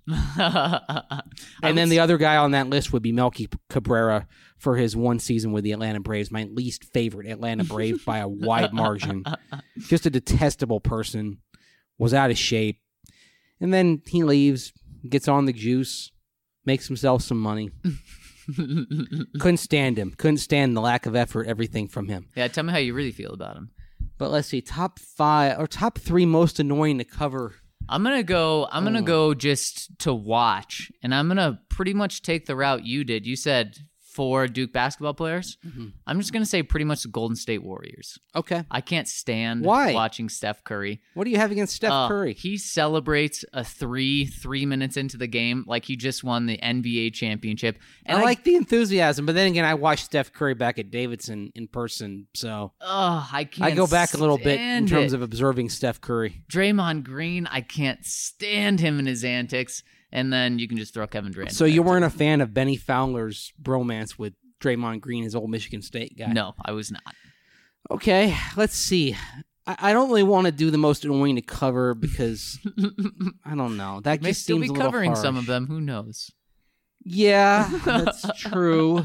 And then the other guy on that list would be Melky Cabrera for his one season with the Atlanta Braves, my least favorite Atlanta Brave by a wide margin. Just a detestable person, was out of shape. And then he leaves, gets on the juice, makes himself some money. Couldn't stand him. Couldn't stand the lack of effort, everything from him. Yeah, tell me how you really feel about him. But let's see, top 3 most annoying to cover. I'm gonna go just to watch, and I'm gonna pretty much take the route you did. You said 4 Duke basketball players. Mm-hmm. I'm just gonna say pretty much the Golden State Warriors. Okay. I can't stand Why? watching Steph Curry. What do you have against Steph Curry? He celebrates a 3 minutes into the game like he just won the NBA championship. And I like the enthusiasm, but then again, I watched Steph Curry back at Davidson in person, so I can't. I go back a little bit in terms it. of observing Steph Curry. Draymond Green, I can't stand him and his antics. And then you can just throw Kevin Durant. So you weren't a fan of Benny Fowler's bromance with Draymond Green, his old Michigan State guy? No, I was not. Okay, let's see. I don't really want to do the most annoying to cover because I don't know. That may just still seems be a little covering harsh. some of them. Who knows? Yeah, that's true.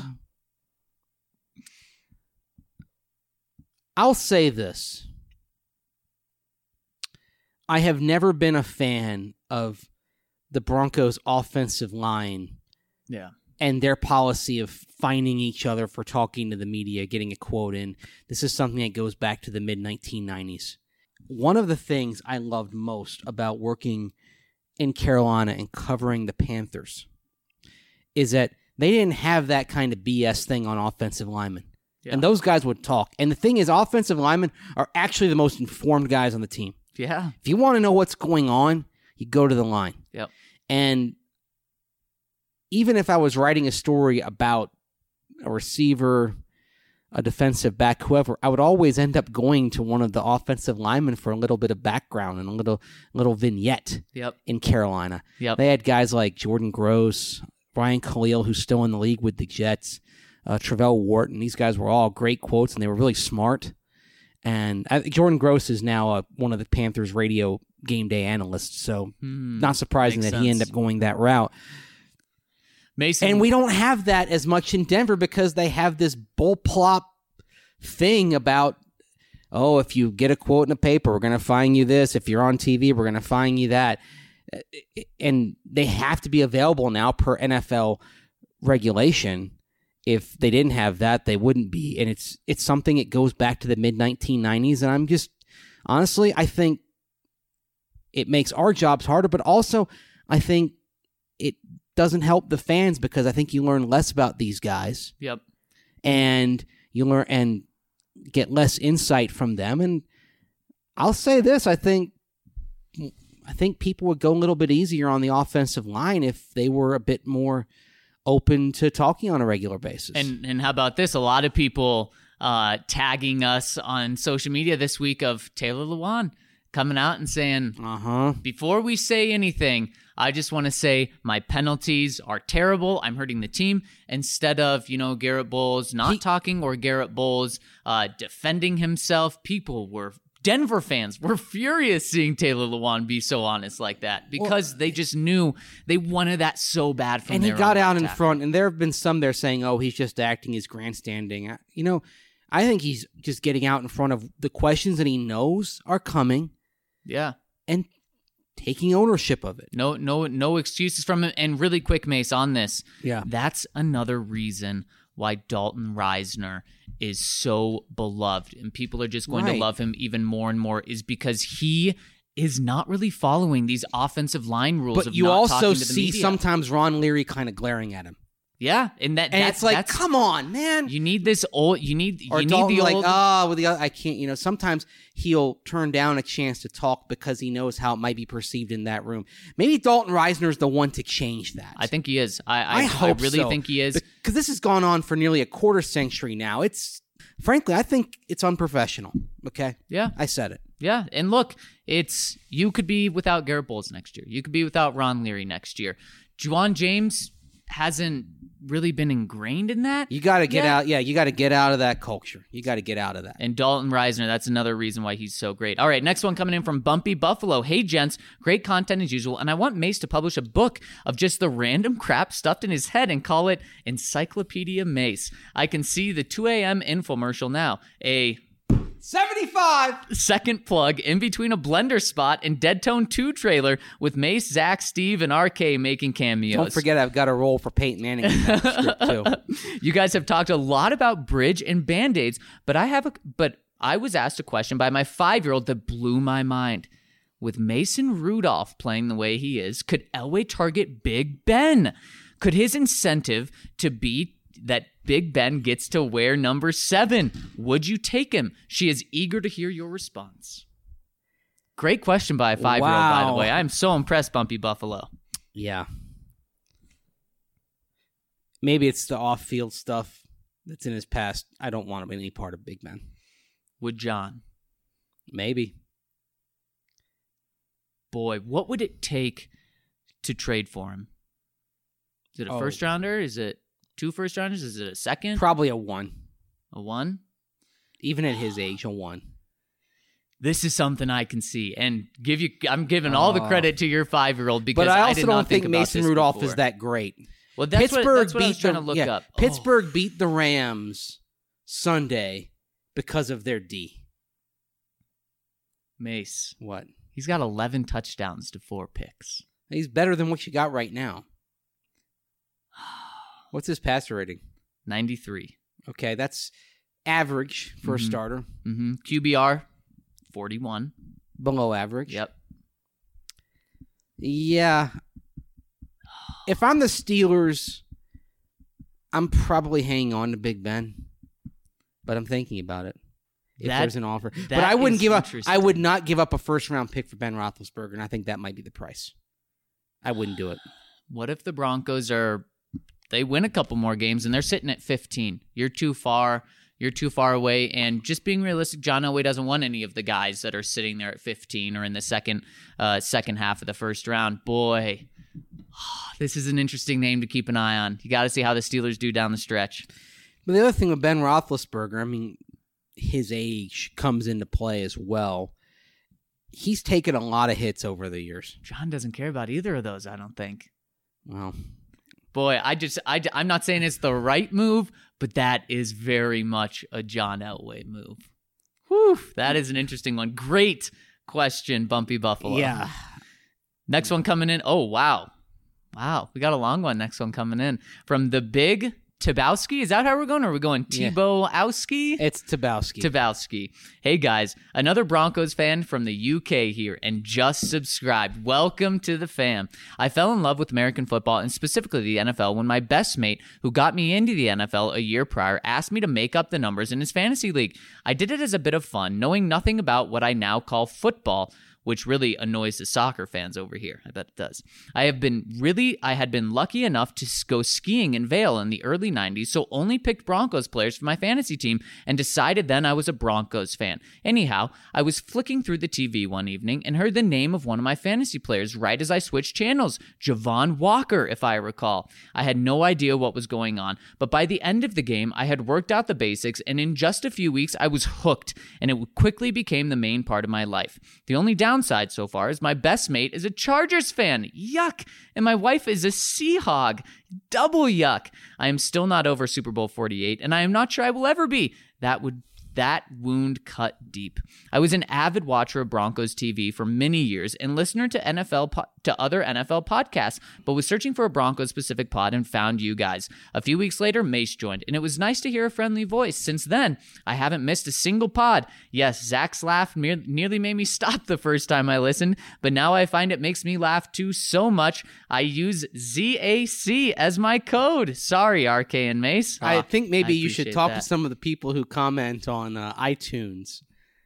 I'll say this. I have never been a fan of the Broncos' offensive line Yeah. and their policy of fining each other for talking to the media, getting a quote in. This is something that goes back to the mid-1990s. One of the things I loved most about working in Carolina and covering the Panthers is that they didn't have that kind of BS thing on offensive linemen. Yeah. And those guys would talk. And the thing is, offensive linemen are actually the most informed guys on the team. Yeah. If you want to know what's going on, you go to the line. Yep. And even if I was writing a story about a receiver, a defensive back, whoever, I would always end up going to one of the offensive linemen for a little bit of background and a little vignette. Yep. In Carolina. Yep. They had guys like Jordan Gross, Brian Khalil, who's still in the league with the Jets, Travell Wharton. These guys were all great quotes, and they were really smart. And I think Jordan Gross is now one of the Panthers radio game day analysts, so not surprising that he ended up going that route. Mason. And we don't have that as much in Denver because they have this bullplop thing about, oh, if you get a quote in a paper, we're going to fine you this. If you're on TV, we're going to fine you that. And they have to be available now per NFL regulation. If they didn't have that, they wouldn't be. And it's something that goes back to the mid-1990s. And I'm just, honestly, I think it makes our jobs harder, but also I think it doesn't help the fans because I think you learn less about these guys. Yep. And you learn and get less insight from them. And I'll say this, I think people would go a little bit easier on the offensive line if they were a bit more open to talking on a regular basis. And how about this? A lot of people tagging us on social media this week of Taylor Lewan coming out and saying, before we say anything, I just want to say my penalties are terrible. I'm hurting the team. Instead of, Garrett Bowles not talking or Garrett Bowles defending himself, Denver fans were furious seeing Taylor Lewan be so honest like that because they just knew they wanted that so bad from their And he got out in attack. front, and there have been some there saying, oh, he's just acting, he's grandstanding. I think he's just getting out in front of the questions that he knows are coming. Yeah. And taking ownership of it. No excuses from him. And really quick, Mace, on this. Yeah. That's another reason why Dalton Reisner is so beloved and people are just going to love him even more and more is because he is not really following these offensive line rules. But of you not also talking to the see media. sometimes Ron Leary kind of glaring at him. Yeah, and it's like, come on, man. You need this old. You need Dalton the like, old. with the other, I can't. Sometimes he'll turn down a chance to talk because he knows how it might be perceived in that room. Maybe Dalton Reisner is the one to change that. I think he is. I hope really so, think he is because this has gone on for nearly a quarter century now. Frankly, I think it's unprofessional. Okay. Yeah, I said it. Yeah, and look, you could be without Garrett Bowles next year. You could be without Ron Leary next year. Juwan James hasn't really been ingrained in that. You got to get out. Yeah, you got to get out of that culture. You got to get out of that. And Dalton Reisner, that's another reason why he's so great. All right, next one coming in from Bumpy Buffalo. Hey, gents, great content as usual, and I want Mace to publish a book of just the random crap stuffed in his head and call it Encyclopedia Mace. I can see the 2 a.m. infomercial now. A 75 second plug in between a Blender spot and Dead Tone 2 trailer with Mace, Zach, Steve, and RK making cameos. Don't forget I've got a role for Peyton Manning in that script too. You guys have talked a lot about bridge and Band-Aids, but I was asked a question by my 5-year-old that blew my mind. With Mason Rudolph playing the way he is, could Elway target Big Ben? Could his incentive to be that Big Ben gets to wear number 7? Would you take him? She is eager to hear your response. Great question by a 5-year-old, by the way. I'm so impressed, Bumpy Buffalo. Yeah. Maybe it's the off-field stuff that's in his past. I don't want to be any part of Big Ben. Would John? Maybe. Boy, what would it take to trade for him? Is it a first rounder? Is it 2 first rounders? Is it a second? Probably a 1. A 1? Even at his age, a 1. This is something I can see, and I'm giving all the credit to your 5-year-old because but I also did not don't think about Mason this Rudolph before. is that great. Well, that's what I was trying to look up. Pittsburgh beat the Rams Sunday because of their D. Mace. What? He's got 11 touchdowns to 4 picks. He's better than what you got right now. What's his passer rating? 93. Okay, that's average for a starter. Mm-hmm. QBR, 41. Below average. Yep. Yeah. If I'm the Steelers, I'm probably hanging on to Big Ben. But I'm thinking about it. If there's an offer. But I wouldn't give up. I would not give up a first-round pick for Ben Roethlisberger, and I think that might be the price. I wouldn't do it. What if the Broncos they win a couple more games and they're sitting at 15? You're too far. You're too far away. And just being realistic, John Elway doesn't want any of the guys that are sitting there at 15 or in the second half of the first round. Boy, this is an interesting name to keep an eye on. You got to see how the Steelers do down the stretch. But the other thing with Ben Roethlisberger, I mean, his age comes into play as well. He's taken a lot of hits over the years. John doesn't care about either of those, I don't think. Well, boy, I'm not saying it's the right move, but that is very much a John Elway move. Whew, that is an interesting one. Great question, Bumpy Buffalo. Yeah. Next one coming in. Oh, wow. Wow, we got a long one. Next one coming in from the Big Tabowski. Is that how we're going? Or are we going Tebowski? It's Tabowski. Tabowski. Hey, guys. Another Broncos fan from the UK here and just subscribed. Welcome to the fam. I fell in love with American football and specifically the NFL when my best mate, who got me into the NFL a year prior, asked me to make up the numbers in his fantasy league. I did it as a bit of fun, knowing nothing about what I now call football, which really annoys the soccer fans over here. I bet it does. I had been lucky enough to go skiing in Vail in the early 90s, so only picked Broncos players for my fantasy team and decided then I was a Broncos fan. Anyhow, I was flicking through the TV one evening and heard the name of one of my fantasy players right as I switched channels, Javon Walker, if I recall. I had no idea what was going on, but by the end of the game, I had worked out the basics, and in just a few weeks, I was hooked, and it quickly became the main part of my life. The only downside so far is my best mate is a Chargers fan. Yuck. And my wife is a Seahawk. Double yuck. I am still not over Super Bowl 48, and I am not sure I will ever be. That wound cut deep. I was an avid watcher of Broncos TV for many years and listener to other NFL podcasts, but was searching for a Broncos-specific pod and found you guys. A few weeks later, Mace joined, and it was nice to hear a friendly voice. Since then, I haven't missed a single pod. Yes, Zach's laugh nearly made me stop the first time I listened, but now I find it makes me laugh too so much. I use ZAC as my code. Sorry, RK and Mace. I think maybe you should talk to some of the people who comment on iTunes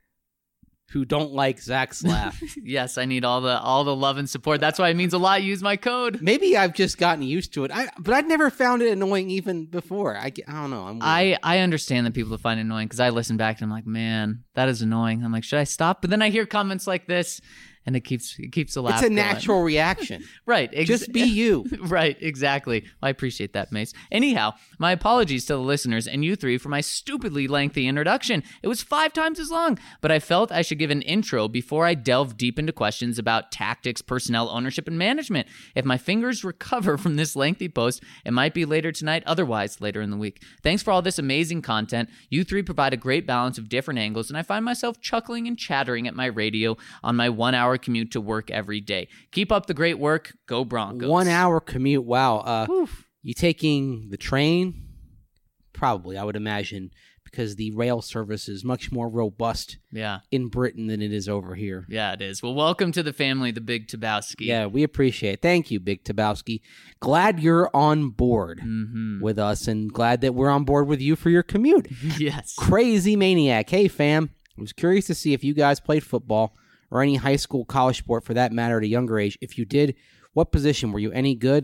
who don't like Zach's laugh. Yes, I need all the love and support. That's why it means a lot. Use my code. Maybe I've just gotten used to it. But I'd never found it annoying even before. I don't know. I understand that people find it annoying because I listen back and I'm like, man, that is annoying. I'm like, should I stop? But then I hear comments like this. And it keeps the laugh. It's a natural reaction. Right. Just be you. Right. Exactly. I appreciate that, Mace. Anyhow, my apologies to the listeners and you three for my stupidly lengthy introduction. It was 5 times as long, but I felt I should give an intro before I delve deep into questions about tactics, personnel, ownership, and management. If my fingers recover from this lengthy post, it might be later tonight, otherwise later in the week. Thanks for all this amazing content. You three provide a great balance of different angles, and I find myself chuckling and chattering at my radio on my 1-hour commute to work every day. Keep up the great work. Go Broncos. 1-hour commute. Wow. You taking the train? Probably, I would imagine, because the rail service is much more robust in Britain than it is over here. Yeah, it is. Well, welcome to the family, the Big Tabowski. Yeah, we appreciate it. Thank you, Big Tabowski. Glad you're on board with us and glad that we're on board with you for your commute. Yes. Crazy Maniac. Hey, fam. I was curious to see if you guys played football or any high school, college sport for that matter at a younger age. If you did, what position? Were you any good?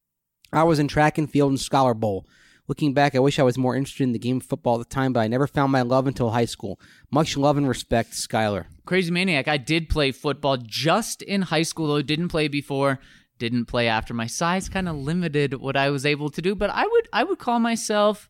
I was in track and field and Scholar Bowl. Looking back, I wish I was more interested in the game of football at the time, but I never found my love until high school. Much love and respect, Skylar. Crazy Maniac. I did play football just in high school, though. Didn't play before, didn't play after. My size kind of limited what I was able to do, but I would call myself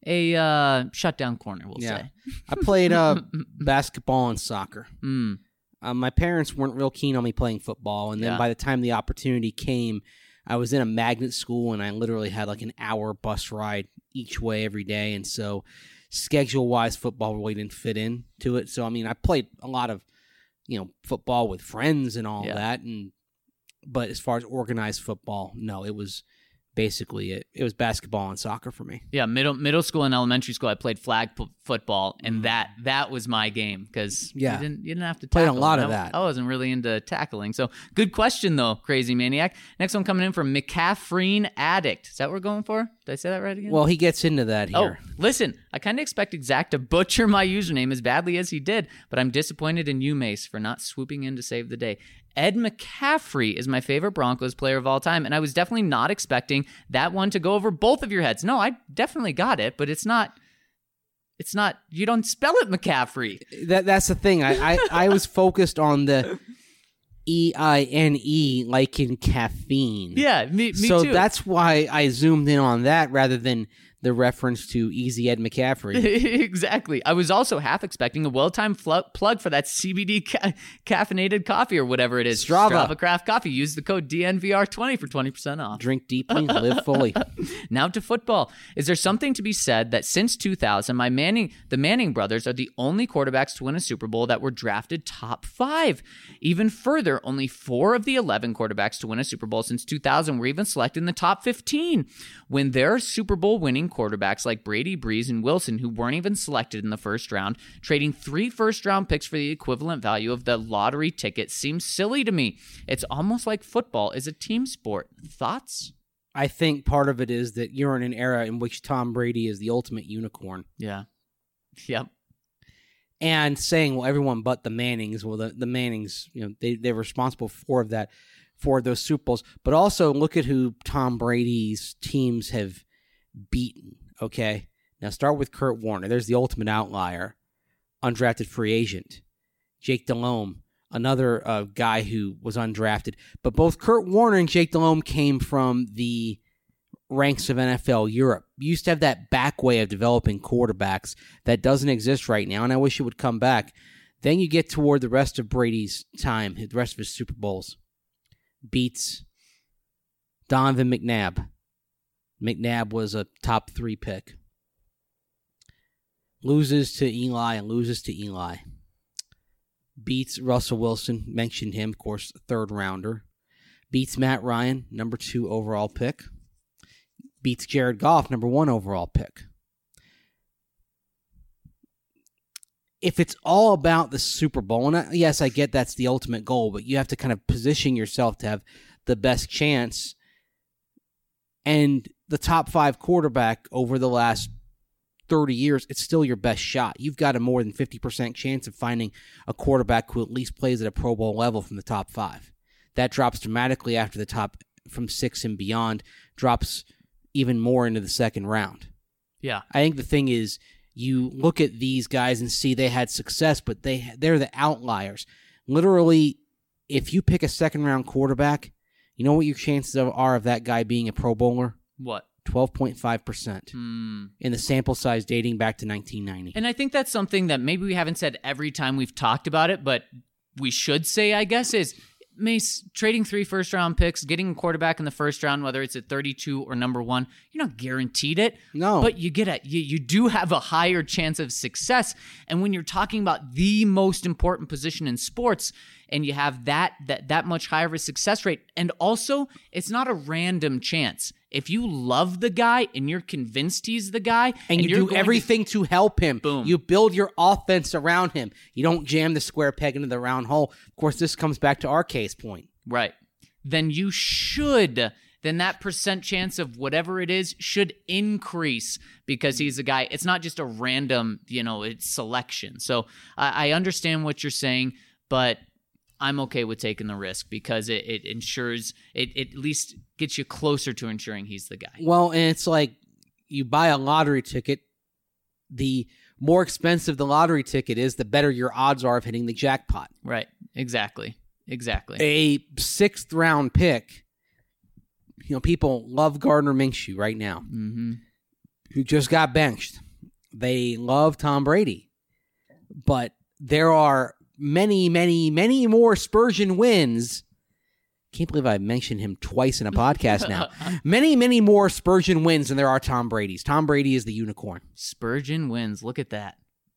a shutdown corner, we'll say. I played basketball and soccer. My parents weren't real keen on me playing football, and then by the time the opportunity came, I was in a magnet school, and I literally had like an hour bus ride each way every day, and so schedule-wise, football really didn't fit into it. So, I mean, I played a lot of, football with friends and all that, but as far as organized football, no, it was basically it was basketball and soccer for me. Yeah, middle school and elementary school, I played flag football, and that was my game because you didn't have to tackle. Played a lot of that. I wasn't really into tackling. So good question though, Crazy Maniac. Next one coming in from McCaffrey Addict. Is that what we're going for? Did I say that right again? Well, he gets into that here. Oh, listen, I kind of expected Zach to butcher my username as badly as he did, but I'm disappointed in you, Mace, for not swooping in to save the day. Ed McCaffrey is my favorite Broncos player of all time, and I was definitely not expecting that one to go over both of your heads. No, I definitely got it, but it's not, you don't spell it McCaffrey. That's the thing. I was focused on the E-I-N-E like in caffeine. Yeah, me too. So that's why I zoomed in on that rather than the reference to Easy Ed McCaffrey. Exactly. I was also half expecting a well-timed plug for that CBD caffeinated coffee or whatever it is. Strava Craft Coffee. Use the code DNVR20 for 20% off. Drink deeply, live fully. Now to football. Is there something to be said that since 2000, the Manning brothers are the only quarterbacks to win a Super Bowl that were drafted top 5? Even further, only 4 of the 11 quarterbacks to win a Super Bowl since 2000 were even selected in the top 15. When there are Super Bowl winning quarterbacks like Brady, Brees, and Wilson who weren't even selected in the first round, trading 3 first-round picks for the equivalent value of the lottery ticket seems silly to me. It's almost like football is a team sport. Thoughts? I think part of it is that you're in an era in which Tom Brady is the ultimate unicorn. Yeah. Yep. And saying, well, everyone but the Mannings, well, the Mannings, they're responsible for those Super Bowls. But also look at who Tom Brady's teams have beaten, okay? Now start with Kurt Warner. There's the ultimate outlier. Undrafted free agent. Jake Delhomme, another guy who was undrafted. But both Kurt Warner and Jake Delhomme came from the ranks of NFL Europe. You used to have that back way of developing quarterbacks that doesn't exist right now, and I wish it would come back. Then you get toward the rest of Brady's time, the rest of his Super Bowls. Beats Donovan McNabb. McNabb was a top 3 pick. Loses to Eli. Beats Russell Wilson, mentioned him, of course, 3rd rounder. Beats Matt Ryan, number 2 overall pick. Beats Jared Goff, number 1 overall pick. If it's all about the Super Bowl, and yes, I get that's the ultimate goal, but you have to kind of position yourself to have the best chance. And the top 5 quarterback over the last 30 years, it's still your best shot. You've got a more than 50% chance of finding a quarterback who at least plays at a Pro Bowl level from the top 5. That drops dramatically after the top from 6 and beyond, drops even more into the 2nd round. Yeah. I think the thing is, you look at these guys and see they had success, but they're the outliers. Literally, if you pick a 2nd round quarterback, you know what your chances are of that guy being a Pro Bowler? What? 12.5% in the sample size dating back to 1990. And I think that's something that maybe we haven't said every time we've talked about it, but we should say, I guess, is Mace, trading 3 first-round picks, getting a quarterback in the first round, whether it's at 32 or number 1, you're not guaranteed it. No. But you do have a higher chance of success. And when you're talking about the most important position in sports, and you have that much higher of a success rate, and also it's not a random chance. If you love the guy and you're convinced he's the guy, and you do everything to help him, boom. You build your offense around him. You don't jam the square peg into the round hole. Of course, this comes back to our case point. Right. Then that percent chance of whatever it is should increase because he's a guy. It's not just a random, it's selection. So I understand what you're saying, but I'm okay with taking the risk because it ensures it at least gets you closer to ensuring he's the guy. Well, and it's like you buy a lottery ticket. The more expensive the lottery ticket is, the better your odds are of hitting the jackpot. Right. Exactly. A 6th round pick. People love Gardner Minshew right now, who just got benched. They love Tom Brady, but there are many, many, many more Spurgeon wins Can't believe I mentioned him twice in a podcast now. Many, many more Spurgeon wins than there are Tom Brady's. Tom Brady is the unicorn. Spurgeon wins. Look at that.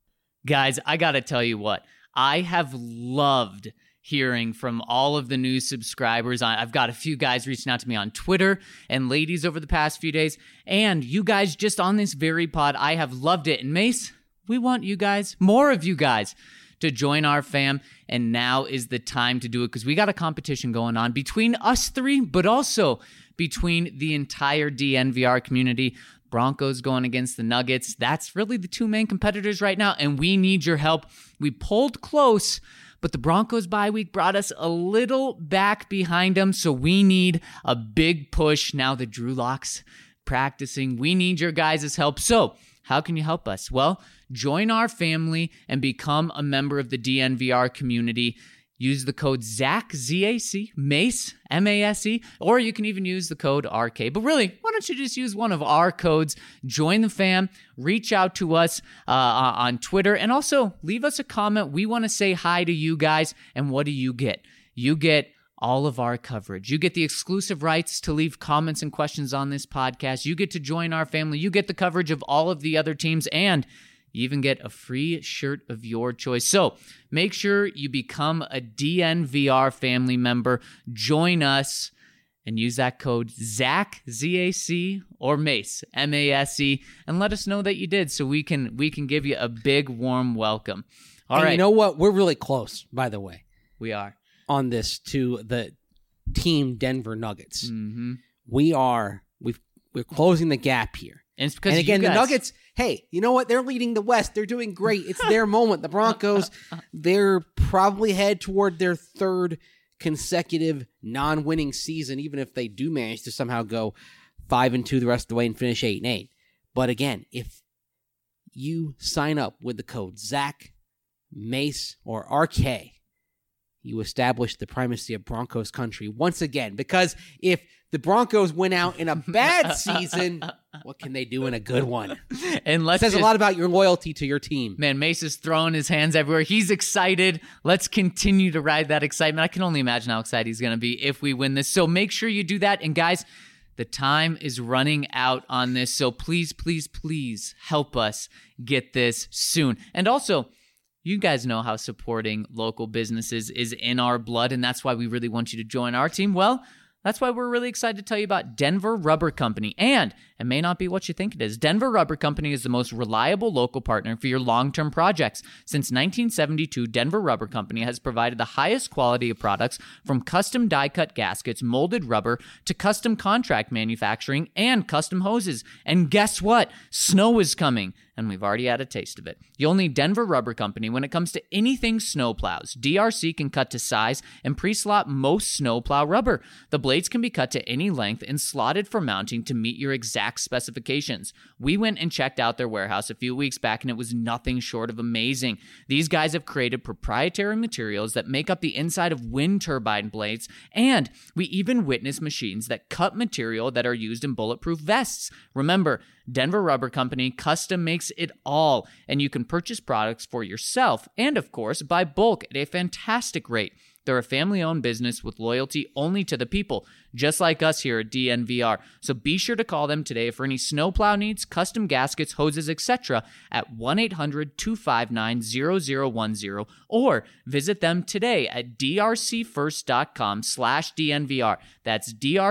Guys, I got to tell you what. I have loved hearing from all of the new subscribers. I've got a few guys reaching out to me on Twitter and ladies over the past few days. And you guys just on this very pod, I have loved it. And Mace, we want you guys, more of you guys, to join our fam, and now is the time to do it because we got a competition going on between us three, but also between the entire DNVR community. Broncos going against the Nuggets. That's really the two main competitors right now, and we need your help. We pulled close, but the Broncos bye week brought us a little back behind them, so we need a big push now that Drew Lock's practicing. We need your guys' help. So how can you help us? Well, join our family and become a member of the DNVR community. Use the code ZAC, Z-A-C, Mace, M-A-S-E, or you can even use the code RK. But really, why don't you just use one of our codes, join the fam, reach out to us on Twitter, and also leave us a comment. We want to say hi to you guys, and what do you get? You get all of our coverage. You get the exclusive rights to leave comments and questions on this podcast. You get to join our family. You get the coverage of all of the other teams, and you even get a free shirt of your choice. So make sure you become a DNVR family member. Join us and use that code ZAC, Z-A-C, or Mace, M-A-S-E, and let us know that you did so we can give you a big, warm welcome. All right. You know what? We're really close, by the way. We are. On this to the team Denver Nuggets. Mm-hmm. We're closing the gap here. And it's because and again, you guys... the Nuggets, hey, you know what? They're leading the West. They're doing great. It's their moment. The Broncos, they're probably head toward their third consecutive non-winning season, even if they do manage to somehow go 5-2 the rest of the way and finish 8-8. But again, if you sign up with the code ZAC, Mace, or RK, you establish the primacy of Broncos country once again. Because if the Broncos win out in a bad season, what can they do in a good one? And it says a lot about your loyalty to your team. Man, Mace is throwing his hands everywhere. He's excited. Let's continue to ride that excitement. I can only imagine how excited he's going to be if we win this. So make sure you do that. And guys, the time is running out on this. So please, please, please help us get this soon. And also, you guys know how supporting local businesses is in our blood, and that's why we really want you to join our team. Well, that's why we're really excited to tell you about Denver Rubber Company. And it may not be what you think it is. Denver Rubber Company is the most reliable local partner for your long-term projects. Since 1972, Denver Rubber Company has provided the highest quality of products from custom die-cut gaskets, molded rubber, to custom contract manufacturing and custom hoses. And guess what? Snow is coming, and we've already had a taste of it. You'll need Denver Rubber Company when it comes to anything snowplows. DRC can cut to size and pre-slot most snowplow rubber. The blades can be cut to any length and slotted for mounting to meet your exact specifications. We went and checked out their warehouse a few weeks back, and it was nothing short of amazing. These guys have created proprietary materials that make up the inside of wind turbine blades, and we even witnessed machines that cut material that are used in bulletproof vests. Remember, Denver Rubber Company custom makes it all, and you can purchase products for yourself and, of course, buy bulk at a fantastic rate. They're a family-owned business with loyalty only to the people, just like us here at DNVR. So be sure to call them today for any snowplow needs, custom gaskets, hoses, etc. at 1-800-259-0010 or visit them today at drcfirst.com/DNVR. That's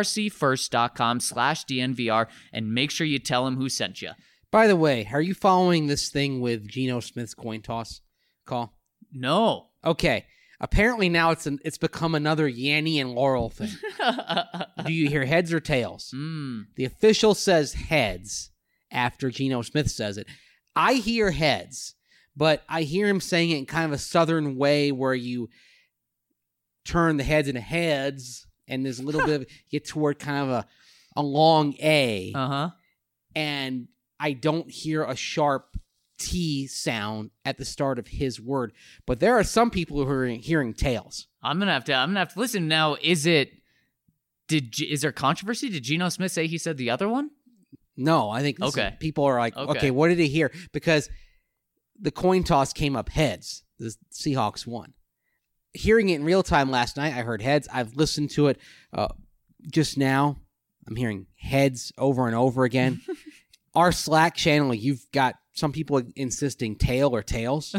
drcfirst.com/DNVR, and make sure you tell them who sent you. By the way, are you following this thing with Geno Smith's coin toss call? No. Okay. Apparently now it's become another Yanny and Laurel thing. Do you hear heads or tails? The official says heads after Geno Smith says it. I hear heads, but I hear him saying it in kind of a southern way where you turn the heads into heads, and there's a little bit of get toward kind of a long A. And I don't hear a sharp T sound at the start of his word, but there are some people who are hearing tails. I'm gonna have to listen now. Is there controversy? Did Geno Smith say he said the other one? No, I think people are like, okay, what did he hear? Because the coin toss came up heads. The Seahawks won. hearing it in real time last night, I heard heads. I've listened to it just now. I'm hearing heads over and over again. Our Slack channel, you've got some people insisting tail or tails.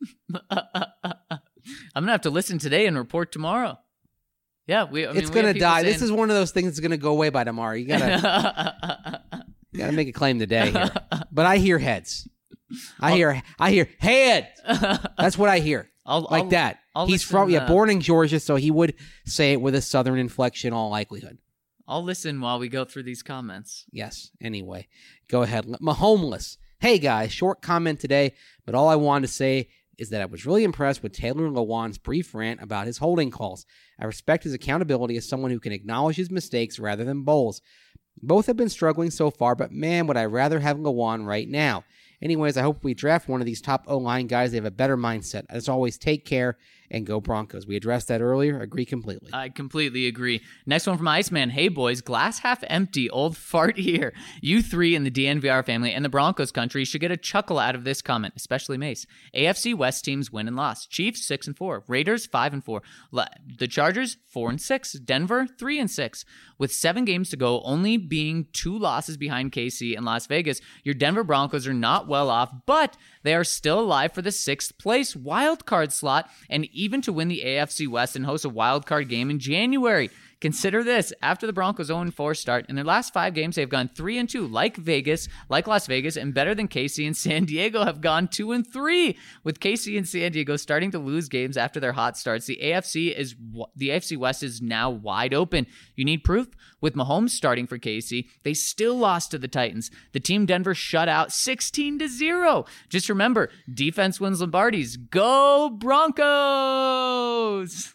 I'm gonna have to listen today and report tomorrow. Yeah, it's gonna die. This is one of those things that's gonna go away by tomorrow. You gotta make a claim today here. But I hear heads. I hear head. That's what I hear. That. He's from born in Georgia, so he would say it with a Southern inflection, all likelihood. I'll listen while we go through these comments. Yes. Anyway, go ahead. Mahomeless. Hey guys, short comment today, but all I wanted to say is that I was really impressed with Taylor Lewan's brief rant about his holding calls. I respect his accountability as someone who can acknowledge his mistakes rather than bowls. Both have been struggling so far, but man, would I rather have Lewan right now. Anyways, I hope we draft one of these top O-line guys. They have a better mindset. As always, take care and go Broncos. We addressed that earlier. Agree completely. I completely agree. Next one from Iceman. Hey, boys. Glass half empty. Old fart here. You three in the DNVR family and the Broncos country should get a chuckle out of this comment, especially Mace. AFC West teams win and lost. Chiefs 6-4. Raiders 5-4. The Chargers 4-6. Denver 3-6. With 7 games to go, only being 2 losses behind KC and Las Vegas, your Denver Broncos are not well off, but they are still alive for the 6th place wildcard slot and even to win the AFC West and host a wildcard game in January. Consider this. After the Broncos 0-4 start, in their last 5 games, they've gone 3-2, like Las Vegas, and better than KC and San Diego have gone 2-3. With KC and San Diego starting to lose games after their hot starts, the AFC West is now wide open. You need proof? With Mahomes starting for KC, they still lost to the Titans. The team Denver shut out 16-0. Just remember, defense wins Lombardies. Go Broncos!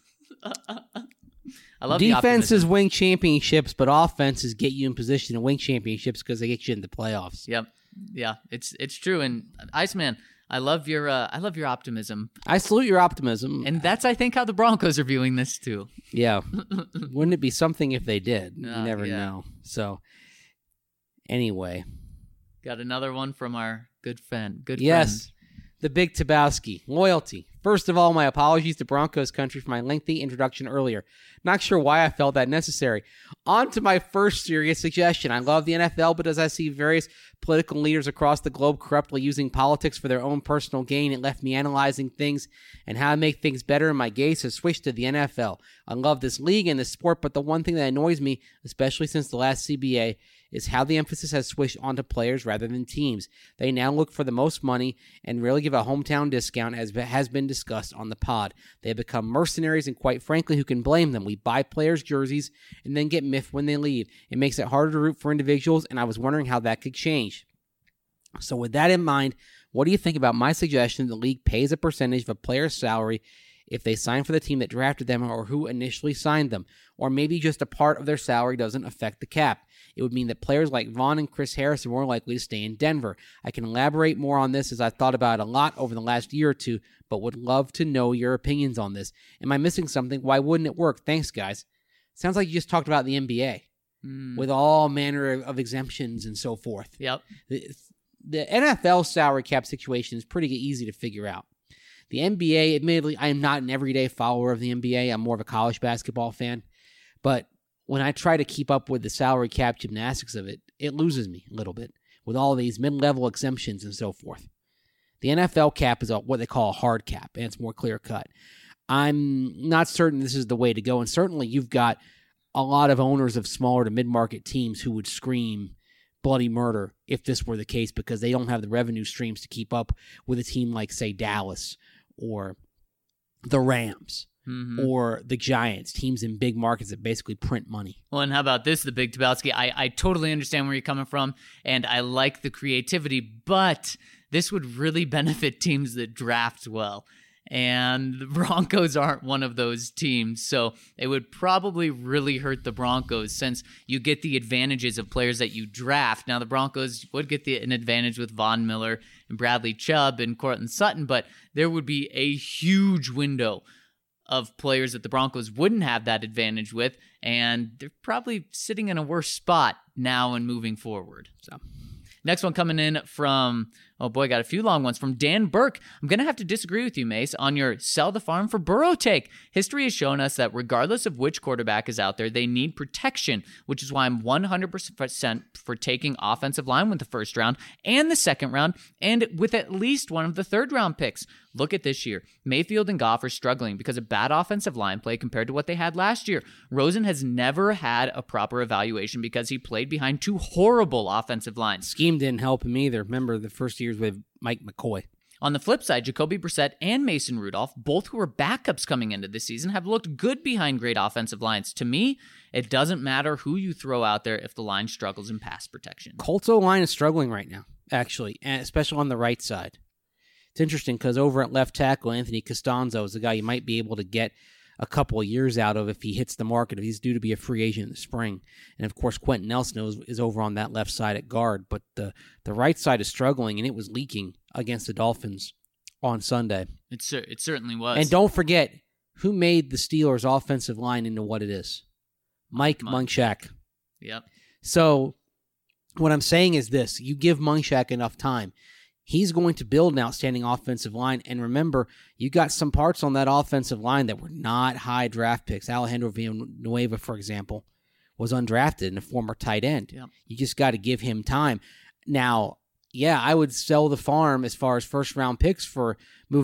I love defenses win championships, but offenses get you in position to win championships because they get you in the playoffs. Yep. Yeah, it's true. And Iceman, I love your optimism. I salute your optimism. And that's, I think, how the Broncos are viewing this too. Yeah. Wouldn't it be something if they did? You never know. So anyway. Got another one from our good friend. Yes. The Big Tabowski. Loyalty. First of all, my apologies to Broncos country for my lengthy introduction earlier. Not sure why I felt that necessary. On to my first serious suggestion. I love the NFL, but as I see various political leaders across the globe corruptly using politics for their own personal gain, it left me analyzing things and how to make things better, and my gaze has switched to the NFL. I love this league and this sport, but the one thing that annoys me, especially since the last CBA, is how the emphasis has switched onto players rather than teams. They now look for the most money and rarely give a hometown discount, as has been discussed on the pod. They have become mercenaries, and quite frankly, who can blame them? We buy players' jerseys and then get miffed when they leave. It makes it harder to root for individuals, and I was wondering how that could change. So with that in mind, what do you think about my suggestion the league pays a percentage of a player's salary if they sign for the team that drafted them or who initially signed them? Or maybe just a part of their salary doesn't affect the cap. It would mean that players like Vaughn and Chris Harris are more likely to stay in Denver. I can elaborate more on this as I've thought about it a lot over the last year or two, but would love to know your opinions on this. Am I missing something? Why wouldn't it work? Thanks, guys. Sounds like you just talked about the NBA with all manner of exemptions and so forth. Yep. The NFL salary cap situation is pretty easy to figure out. The NBA, admittedly, I am not an everyday follower of the NBA. I'm more of a college basketball fan. But when I try to keep up with the salary cap gymnastics of it, it loses me a little bit with all these mid-level exemptions and so forth. The NFL cap is what they call a hard cap, and it's more clear-cut. I'm not certain this is the way to go, and certainly you've got a lot of owners of smaller to mid-market teams who would scream bloody murder if this were the case because they don't have the revenue streams to keep up with a team like, say, Dallas or the Rams. Mm-hmm. Or the Giants, teams in big markets that basically print money. Well, and how about this, the Big Tabowski? I totally understand where you're coming from, and I like the creativity, but this would really benefit teams that draft well. And the Broncos aren't one of those teams, so it would probably really hurt the Broncos since you get the advantages of players that you draft. Now, the Broncos would get an advantage with Von Miller and Bradley Chubb and Courtland Sutton, but there would be a huge window of players that the Broncos wouldn't have that advantage with, and they're probably sitting in a worse spot now and moving forward. So Next one coming in from, oh boy, got a few long ones, from Dan Burke. I'm going to have to disagree with you, Mace, on your sell the farm for Burrow take. History has shown us that regardless of which quarterback is out there, they need protection, which is why I'm 100% for taking offensive line with the first round and the second round, and with at least one of the third round picks. Look at this year. Mayfield and Goff are struggling because of bad offensive line play compared to what they had last year. Rosen has never had a proper evaluation because he played behind two horrible offensive lines. Scheme didn't help him either. Remember the first years with Mike McCoy. On the flip side, Jacoby Brissett and Mason Rudolph, both who were backups coming into this season, have looked good behind great offensive lines. To me, it doesn't matter who you throw out there if the line struggles in pass protection. Colts O-line is struggling right now, actually, and especially on the right side. It's interesting because over at left tackle, Anthony Costanzo is a guy you might be able to get a couple of years out of if he hits the market, if he's due to be a free agent in the spring. And, of course, Quentin Nelson is over on that left side at guard. But the right side is struggling, and it was leaking against the Dolphins on Sunday. It certainly was. And don't forget, who made the Steelers' offensive line into what it is? Mike Munchak. Yep. So what I'm saying is this. You give Munchak enough time, he's going to build an outstanding offensive line. And remember, you got some parts on that offensive line that were not high draft picks. Alejandro Villanueva, for example, was undrafted and a former tight end. Yep. You just got to give him time. Now, yeah, I would sell the farm as far as first-round picks for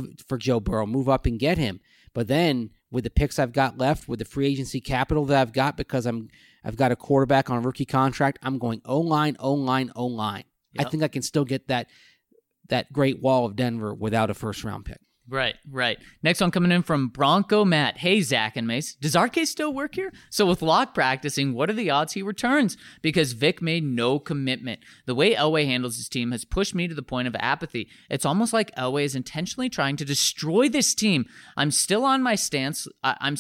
Joe Burrow, move up and get him. But then with the picks I've got left, with the free agency capital that I've got because I've got a quarterback on a rookie contract, I'm going O-line, O-line, O-line. Yep. I think I can still get that Great Wall of Denver without a first-round pick. Right. Next one coming in from Bronco Matt. Hey, Zach and Mace, does RK still work here? So with Locke practicing, what are the odds he returns? Because Vic made no commitment. The way Elway handles his team has pushed me to the point of apathy. It's almost like Elway is intentionally trying to destroy this team. I'm still on my stance.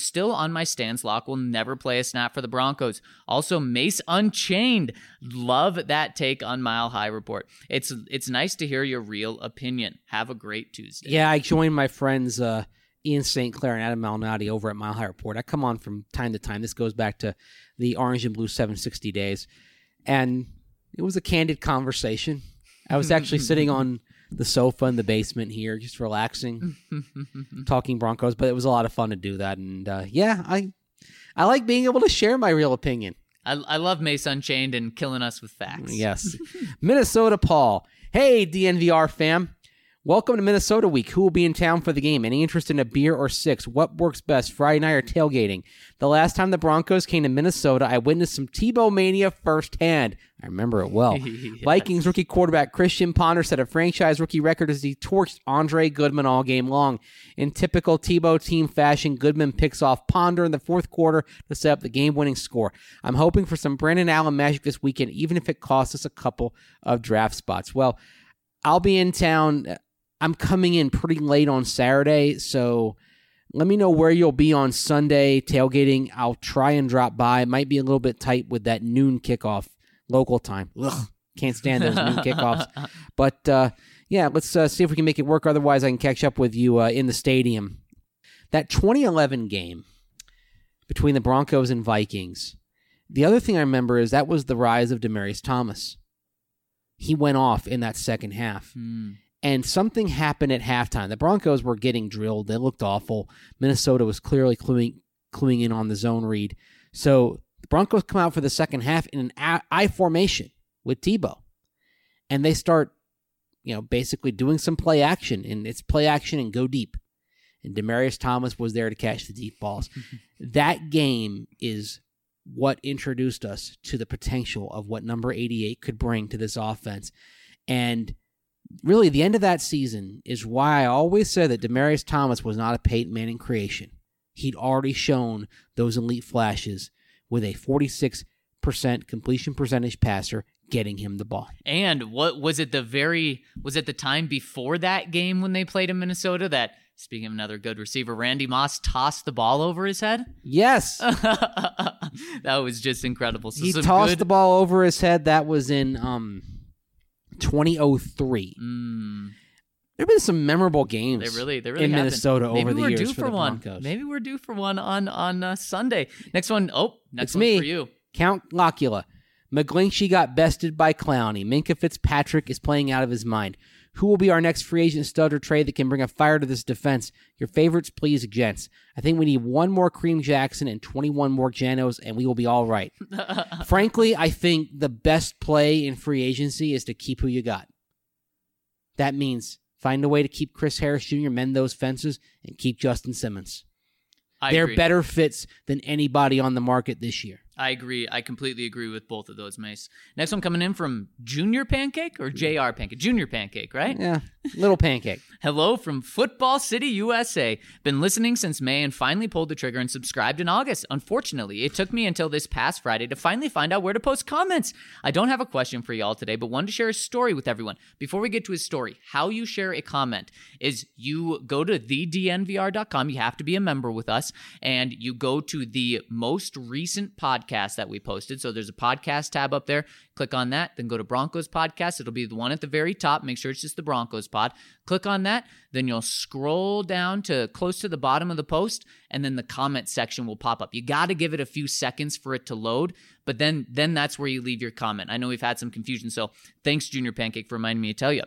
Locke will never play a snap for the Broncos. Also, Mace Unchained. Love that take on Mile High Report. It's nice to hear your real opinion. Have a great Tuesday. Yeah, I joined my friends Ian St. Clair and Adam Malnati over at Mile High Report. I come on from time to time. This goes back to the Orange and Blue 760 days. And it was a candid conversation. I was actually sitting on the sofa in the basement here, just relaxing, talking Broncos. But it was a lot of fun to do that. And I like being able to share my real opinion. I love Mace Unchained and killing us with facts. Yes. Minnesota Paul. Hey, DNVR fam. Welcome to Minnesota week. Who will be in town for the game? Any interest in a beer or six? What works best, Friday night or tailgating? The last time the Broncos came to Minnesota, I witnessed some Tebow mania firsthand. I remember it well. Yes. Vikings rookie quarterback Christian Ponder set a franchise rookie record as he torched Andre Goodman all game long. In typical Tebow team fashion, Goodman picks off Ponder in the fourth quarter to set up the game-winning score. I'm hoping for some Brandon Allen magic this weekend, even if it costs us a couple of draft spots. Well, I'll be in town. I'm coming in pretty late on Saturday, so let me know where you'll be on Sunday tailgating. I'll try and drop by. It might be a little bit tight with that noon kickoff local time. Ugh, can't stand those noon kickoffs. But, let's see if we can make it work. Otherwise, I can catch up with you in the stadium. That 2011 game between the Broncos and Vikings, the other thing I remember is that was the rise of Demaryius Thomas. He went off in that second half. And something happened at halftime. The Broncos were getting drilled. They looked awful. Minnesota was clearly cluing in on the zone read. So the Broncos come out for the second half in an I formation with Tebow. And they start, basically doing some play action. And it's play action and go deep. And Demaryius Thomas was there to catch the deep balls. That game is what introduced us to the potential of what number 88 could bring to this offense. And really, the end of that season is why I always said that Demaryius Thomas was not a Peyton Manning creation. He'd already shown those elite flashes with a 46% completion percentage passer getting him the ball. And what was it the time before that game when they played in Minnesota that, speaking of another good receiver, Randy Moss tossed the ball over his head? Yes. That was just incredible. So he tossed the ball over his head. That was in 2003. There have been some memorable games. They really in Minnesota over the years for the one. Broncos. Maybe we're due for one on Sunday. Next one. Next it's one me, for you. Count Locula. McGlinchey got bested by Clowney. Minka Fitzpatrick is playing out of his mind. Who will be our next free agent stud or trade that can bring a fire to this defense? Your favorites, please, gents. I think we need one more Kareem Jackson and 21 more Janos, and we will be all right. Frankly, I think the best play in free agency is to keep who you got. That means find a way to keep Chris Harris Jr., mend those fences, and keep Justin Simmons. They're agree. better fits than anybody on the market this year. I agree. I completely agree with both of those, Mace. Next one coming in from Junior Pancake or JR Pancake? Junior Pancake, right? Yeah, little pancake. Hello from Football City, USA. Been listening since May and finally pulled the trigger and subscribed in August. Unfortunately, it took me until this past Friday to finally find out where to post comments. I don't have a question for y'all today, but wanted to share a story with everyone. Before we get to his story, how you share a comment is you go to thednvr.com. You have to be a member with us, and you go to the most recent podcast that we posted. So there's a podcast tab up there. Click on that, then go to Broncos Podcast. It'll be the one at the very top. Make sure it's just the Broncos Pod. Click on that, then you'll scroll down to close to the bottom of the post, and then the comment section will pop up. You got to give it a few seconds for it to load, but then that's where you leave your comment. I know we've had some confusion, so thanks, Junior Pancake, for reminding me to tell you.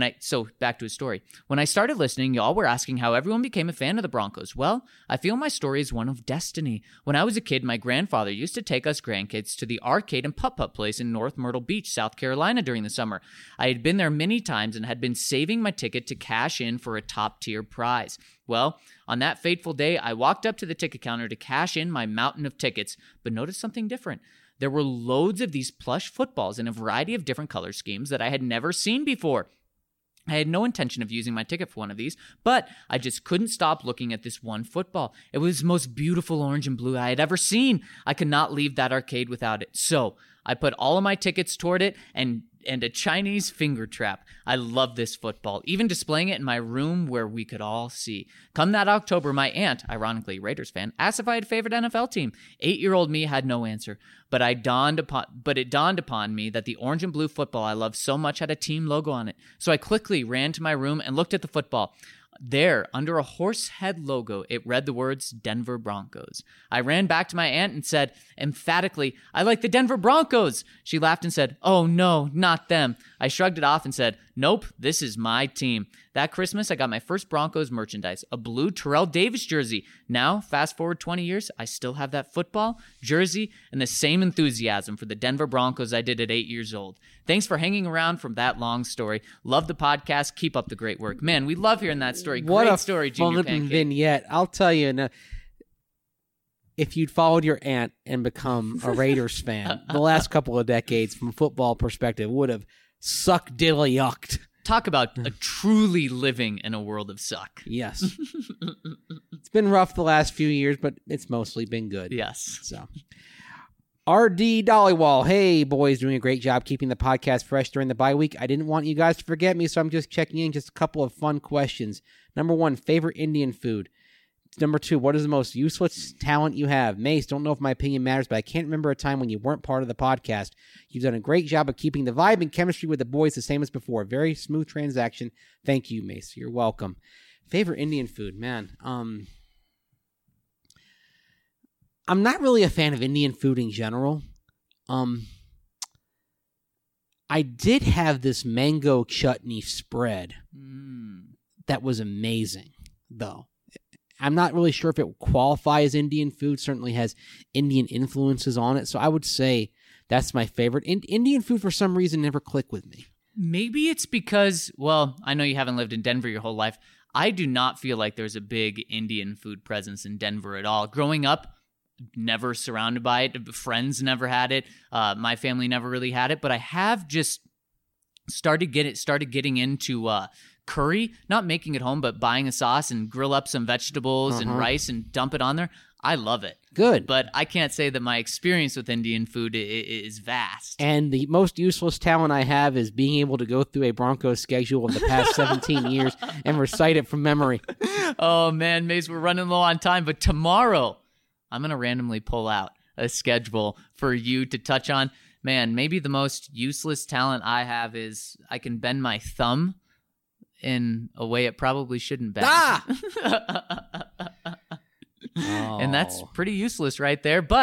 So back to his story. When I started listening, y'all were asking how everyone became a fan of the Broncos. Well, I feel my story is one of destiny. When I was a kid, my grandfather used to take us grandkids to the arcade and putt-putt place in North Myrtle Beach, South Carolina during the summer. I had been there many times and had been saving my ticket to cash in for a top-tier prize. Well, on that fateful day, I walked up to the ticket counter to cash in my mountain of tickets, but noticed something different. There were loads of these plush footballs in a variety of different color schemes that I had never seen before. I had no intention of using my ticket for one of these, but I just couldn't stop looking at this one football. It was the most beautiful orange and blue I had ever seen. I could not leave that arcade without it. So I put all of my tickets toward it and a Chinese finger trap. I love this football, even displaying it in my room where we could all see. Come that October, my aunt, ironically Raiders fan, asked if I had a favorite NFL team. 8-year-old me had no answer, but it dawned upon me that the orange and blue football I loved so much had a team logo on it. So I quickly ran to my room and looked at the football. There, under a horse head logo, it read the words Denver Broncos. I ran back to my aunt and said, emphatically, I like the Denver Broncos. She laughed and said, oh no, not them. I shrugged it off and said, nope, this is my team. That Christmas, I got my first Broncos merchandise, a blue Terrell Davis jersey. Now, fast forward 20 years, I still have that football, jersey, and the same enthusiasm for the Denver Broncos I did at 8 years old. Thanks for hanging around from that long story. Love the podcast. Keep up the great work. Man, we love hearing that story. What great a story, Junior fun Pancake. vignette. I'll tell you, now, if you'd followed your aunt and become a Raiders fan, the last couple of decades, from a football perspective, would have sucked diddly yucked. Talk about a truly living in a world of suck. Yes. It's been rough the last few years, but it's mostly been good. Yes. So, RD Dollywall. Hey, boys, doing a great job keeping the podcast fresh during the bye week. I didn't want you guys to forget me, so I'm just checking in. Just a couple of fun questions. Number 1, favorite Indian food. Number 2, what is the most useless talent you have? Mace, don't know if my opinion matters, but I can't remember a time when you weren't part of the podcast. You've done a great job of keeping the vibe and chemistry with the boys the same as before. Very smooth transaction. Thank you, Mace. You're welcome. Favorite Indian food, man. I'm not really a fan of Indian food in general. I did have this mango chutney spread that was amazing, though. I'm not really sure if it would qualify as Indian food. Certainly has Indian influences on it. So I would say that's my favorite. Indian food, for some reason, never clicked with me. Maybe it's because, well, I know you haven't lived in Denver your whole life. I do not feel like there's a big Indian food presence in Denver at all. Growing up, never surrounded by it. Friends never had it. My family never really had it. But I have just started getting into curry, not making it home, but buying a sauce and grill up some vegetables and rice and dump it on there. I love it. Good. But I can't say that my experience with Indian food is vast. And the most useless talent I have is being able to go through a Broncos schedule of the past 17 years and recite it from memory. Oh, man, Mace, we're running low on time. But tomorrow, I'm going to randomly pull out a schedule for you to touch on. Man, maybe the most useless talent I have is I can bend my thumb in a way it probably shouldn't bend. Ah! And that's pretty useless right there. But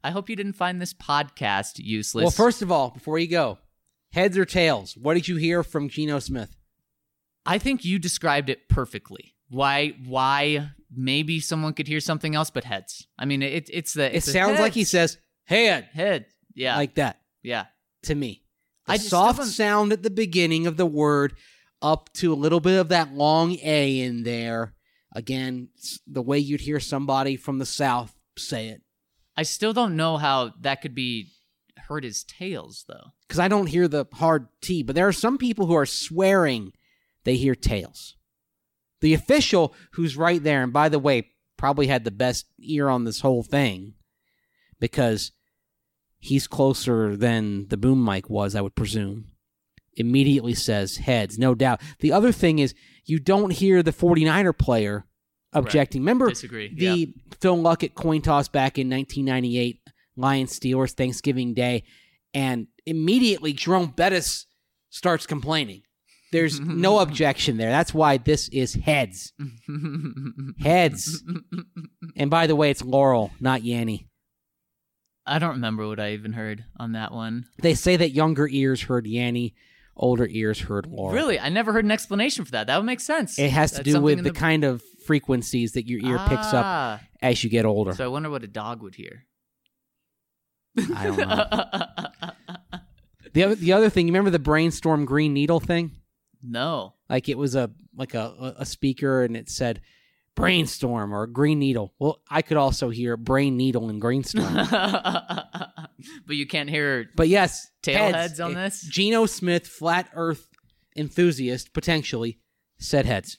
I hope you didn't find this podcast useless. Well, first of all, before you go, heads or tails? What did you hear from Geno Smith? I think you described it perfectly. Why maybe someone could hear something else, but heads. I mean, it sounds like he says head. Head. Yeah. Like that. Yeah. To me. I The just soft don't- sound at the beginning of the word up to a little bit of that long A in there. Again, the way you'd hear somebody from the South say it. I still don't know how that could be heard as tails, though. Because I don't hear the hard T, but there are some people who are swearing they hear tails. The official who's right there, and by the way, probably had the best ear on this whole thing because he's closer than the boom mic was, I would presume, immediately says heads, no doubt. The other thing is you don't hear the 49er player objecting. Right. Remember Disagree. the Phil Luckett coin toss back in 1998, Lions-Steelers, Thanksgiving Day, and immediately Jerome Bettis starts complaining. There's no objection there. That's why this is heads. Heads. And by the way, it's Laurel, not Yanny. I don't remember what I even heard on that one. They say that younger ears heard Yanny, older ears heard Laurel. Really? I never heard an explanation for that. That would make sense. It has to That's do something with in the kind of frequencies that your ear picks up Ah. as you get older. So I wonder what a dog would hear. I don't know. The other thing, you remember the Brainstorm Green Needle thing? No. Like it was a speaker and it said brainstorm or green needle. Well, I could also hear brain needle and grainstorm. But you can't hear But yes, tailheads on this? Geno Smith, flat earth enthusiast, potentially, said heads.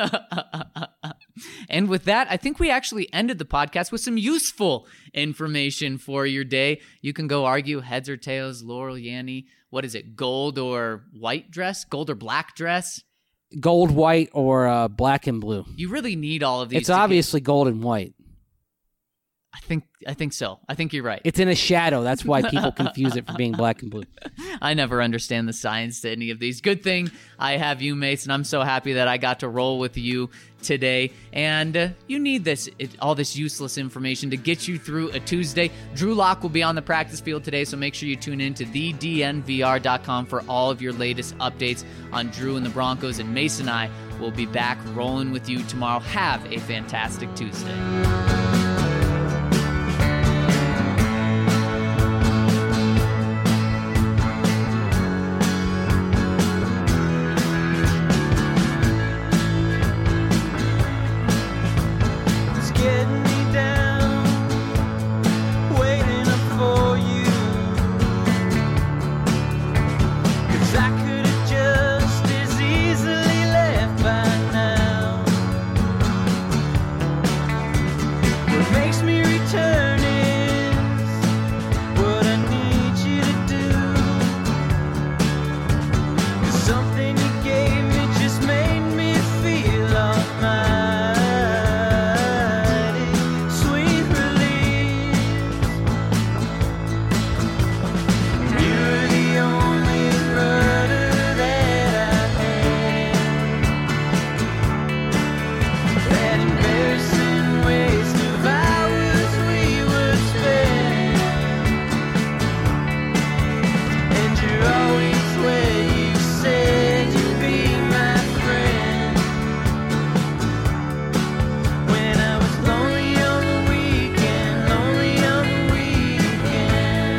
And with that, I think we actually ended the podcast with some useful information for your day. You can go argue heads or tails, Laurel, Yanny. What is it, gold or white dress? Gold or black dress? Gold, white, or black and blue. You really need all of these. It's obviously gold and white. I think so. I think you're right. It's in a shadow. That's why people confuse it for being black and blue. I never understand the science to any of these. Good thing I have you, Mason. I'm so happy that I got to roll with you today. And you need all this useless information to get you through a Tuesday. Drew Lock will be on the practice field today, so make sure you tune in to thednvr.com for all of your latest updates on Drew and the Broncos. And Mason and I will be back rolling with you tomorrow. Have a fantastic Tuesday. It's getting me down, waiting up for you. 'Cause I could have just as easily left by now. What makes me return is what I need you to do. 'Cause something you gave me just made me feel almighty. Sweet release. You're the only murder that I had. That embarrassing waste of hours we would spend. And you're always where you said you'd be my friend. When I was lonely on the weekend, lonely on the weekend.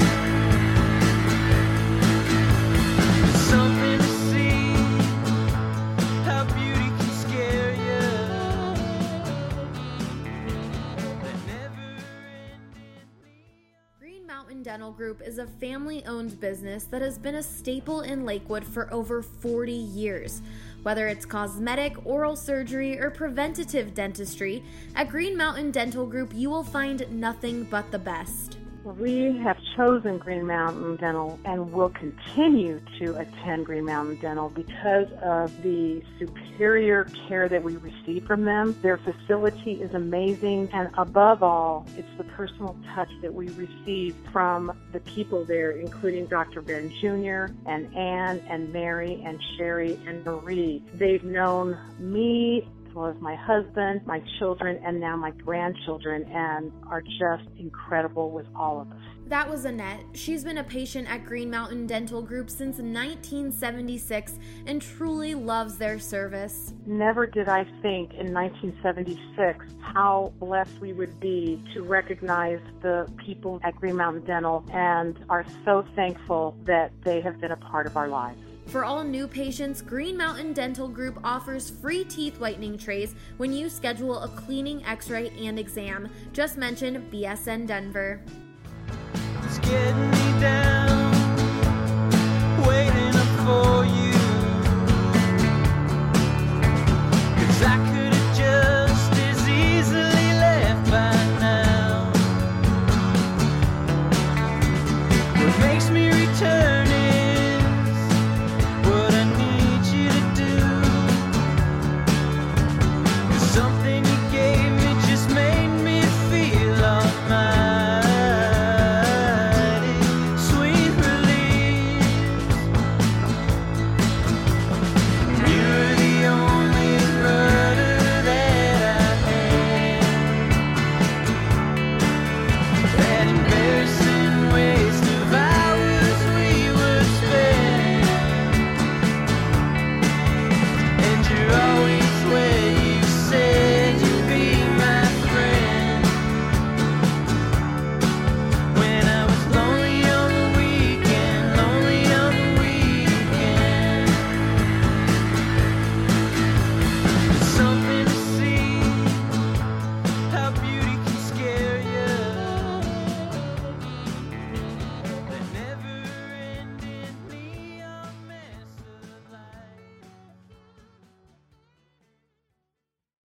It's something to see how beauty can scare you. That never ended. Green Mountain Dental Group is a family-owned business that has been a staple in Lakewood for over 40 years. Whether it's cosmetic, oral surgery, or preventative dentistry, at Green Mountain Dental Group you will find nothing but the best. We have chosen Green Mountain Dental and will continue to attend Green Mountain Dental because of the superior care that we receive from them. Their facility is amazing, and above all, it's the personal touch that we receive from the people there, including Dr. Ben Jr. and Ann and Mary and Sherry and Marie. They've known me as well as my husband, my children, and now my grandchildren, and are just incredible with all of us. That was Annette. She's been a patient at Green Mountain Dental Group since 1976 and truly loves their service. Never did I think in 1976 how blessed we would be to recognize the people at Green Mountain Dental, and are so thankful that they have been a part of our lives. For all new patients, Green Mountain Dental Group offers free teeth whitening trays when you schedule a cleaning, x-ray, and exam. Just mention BSN Denver. It's getting me down, waiting up for you.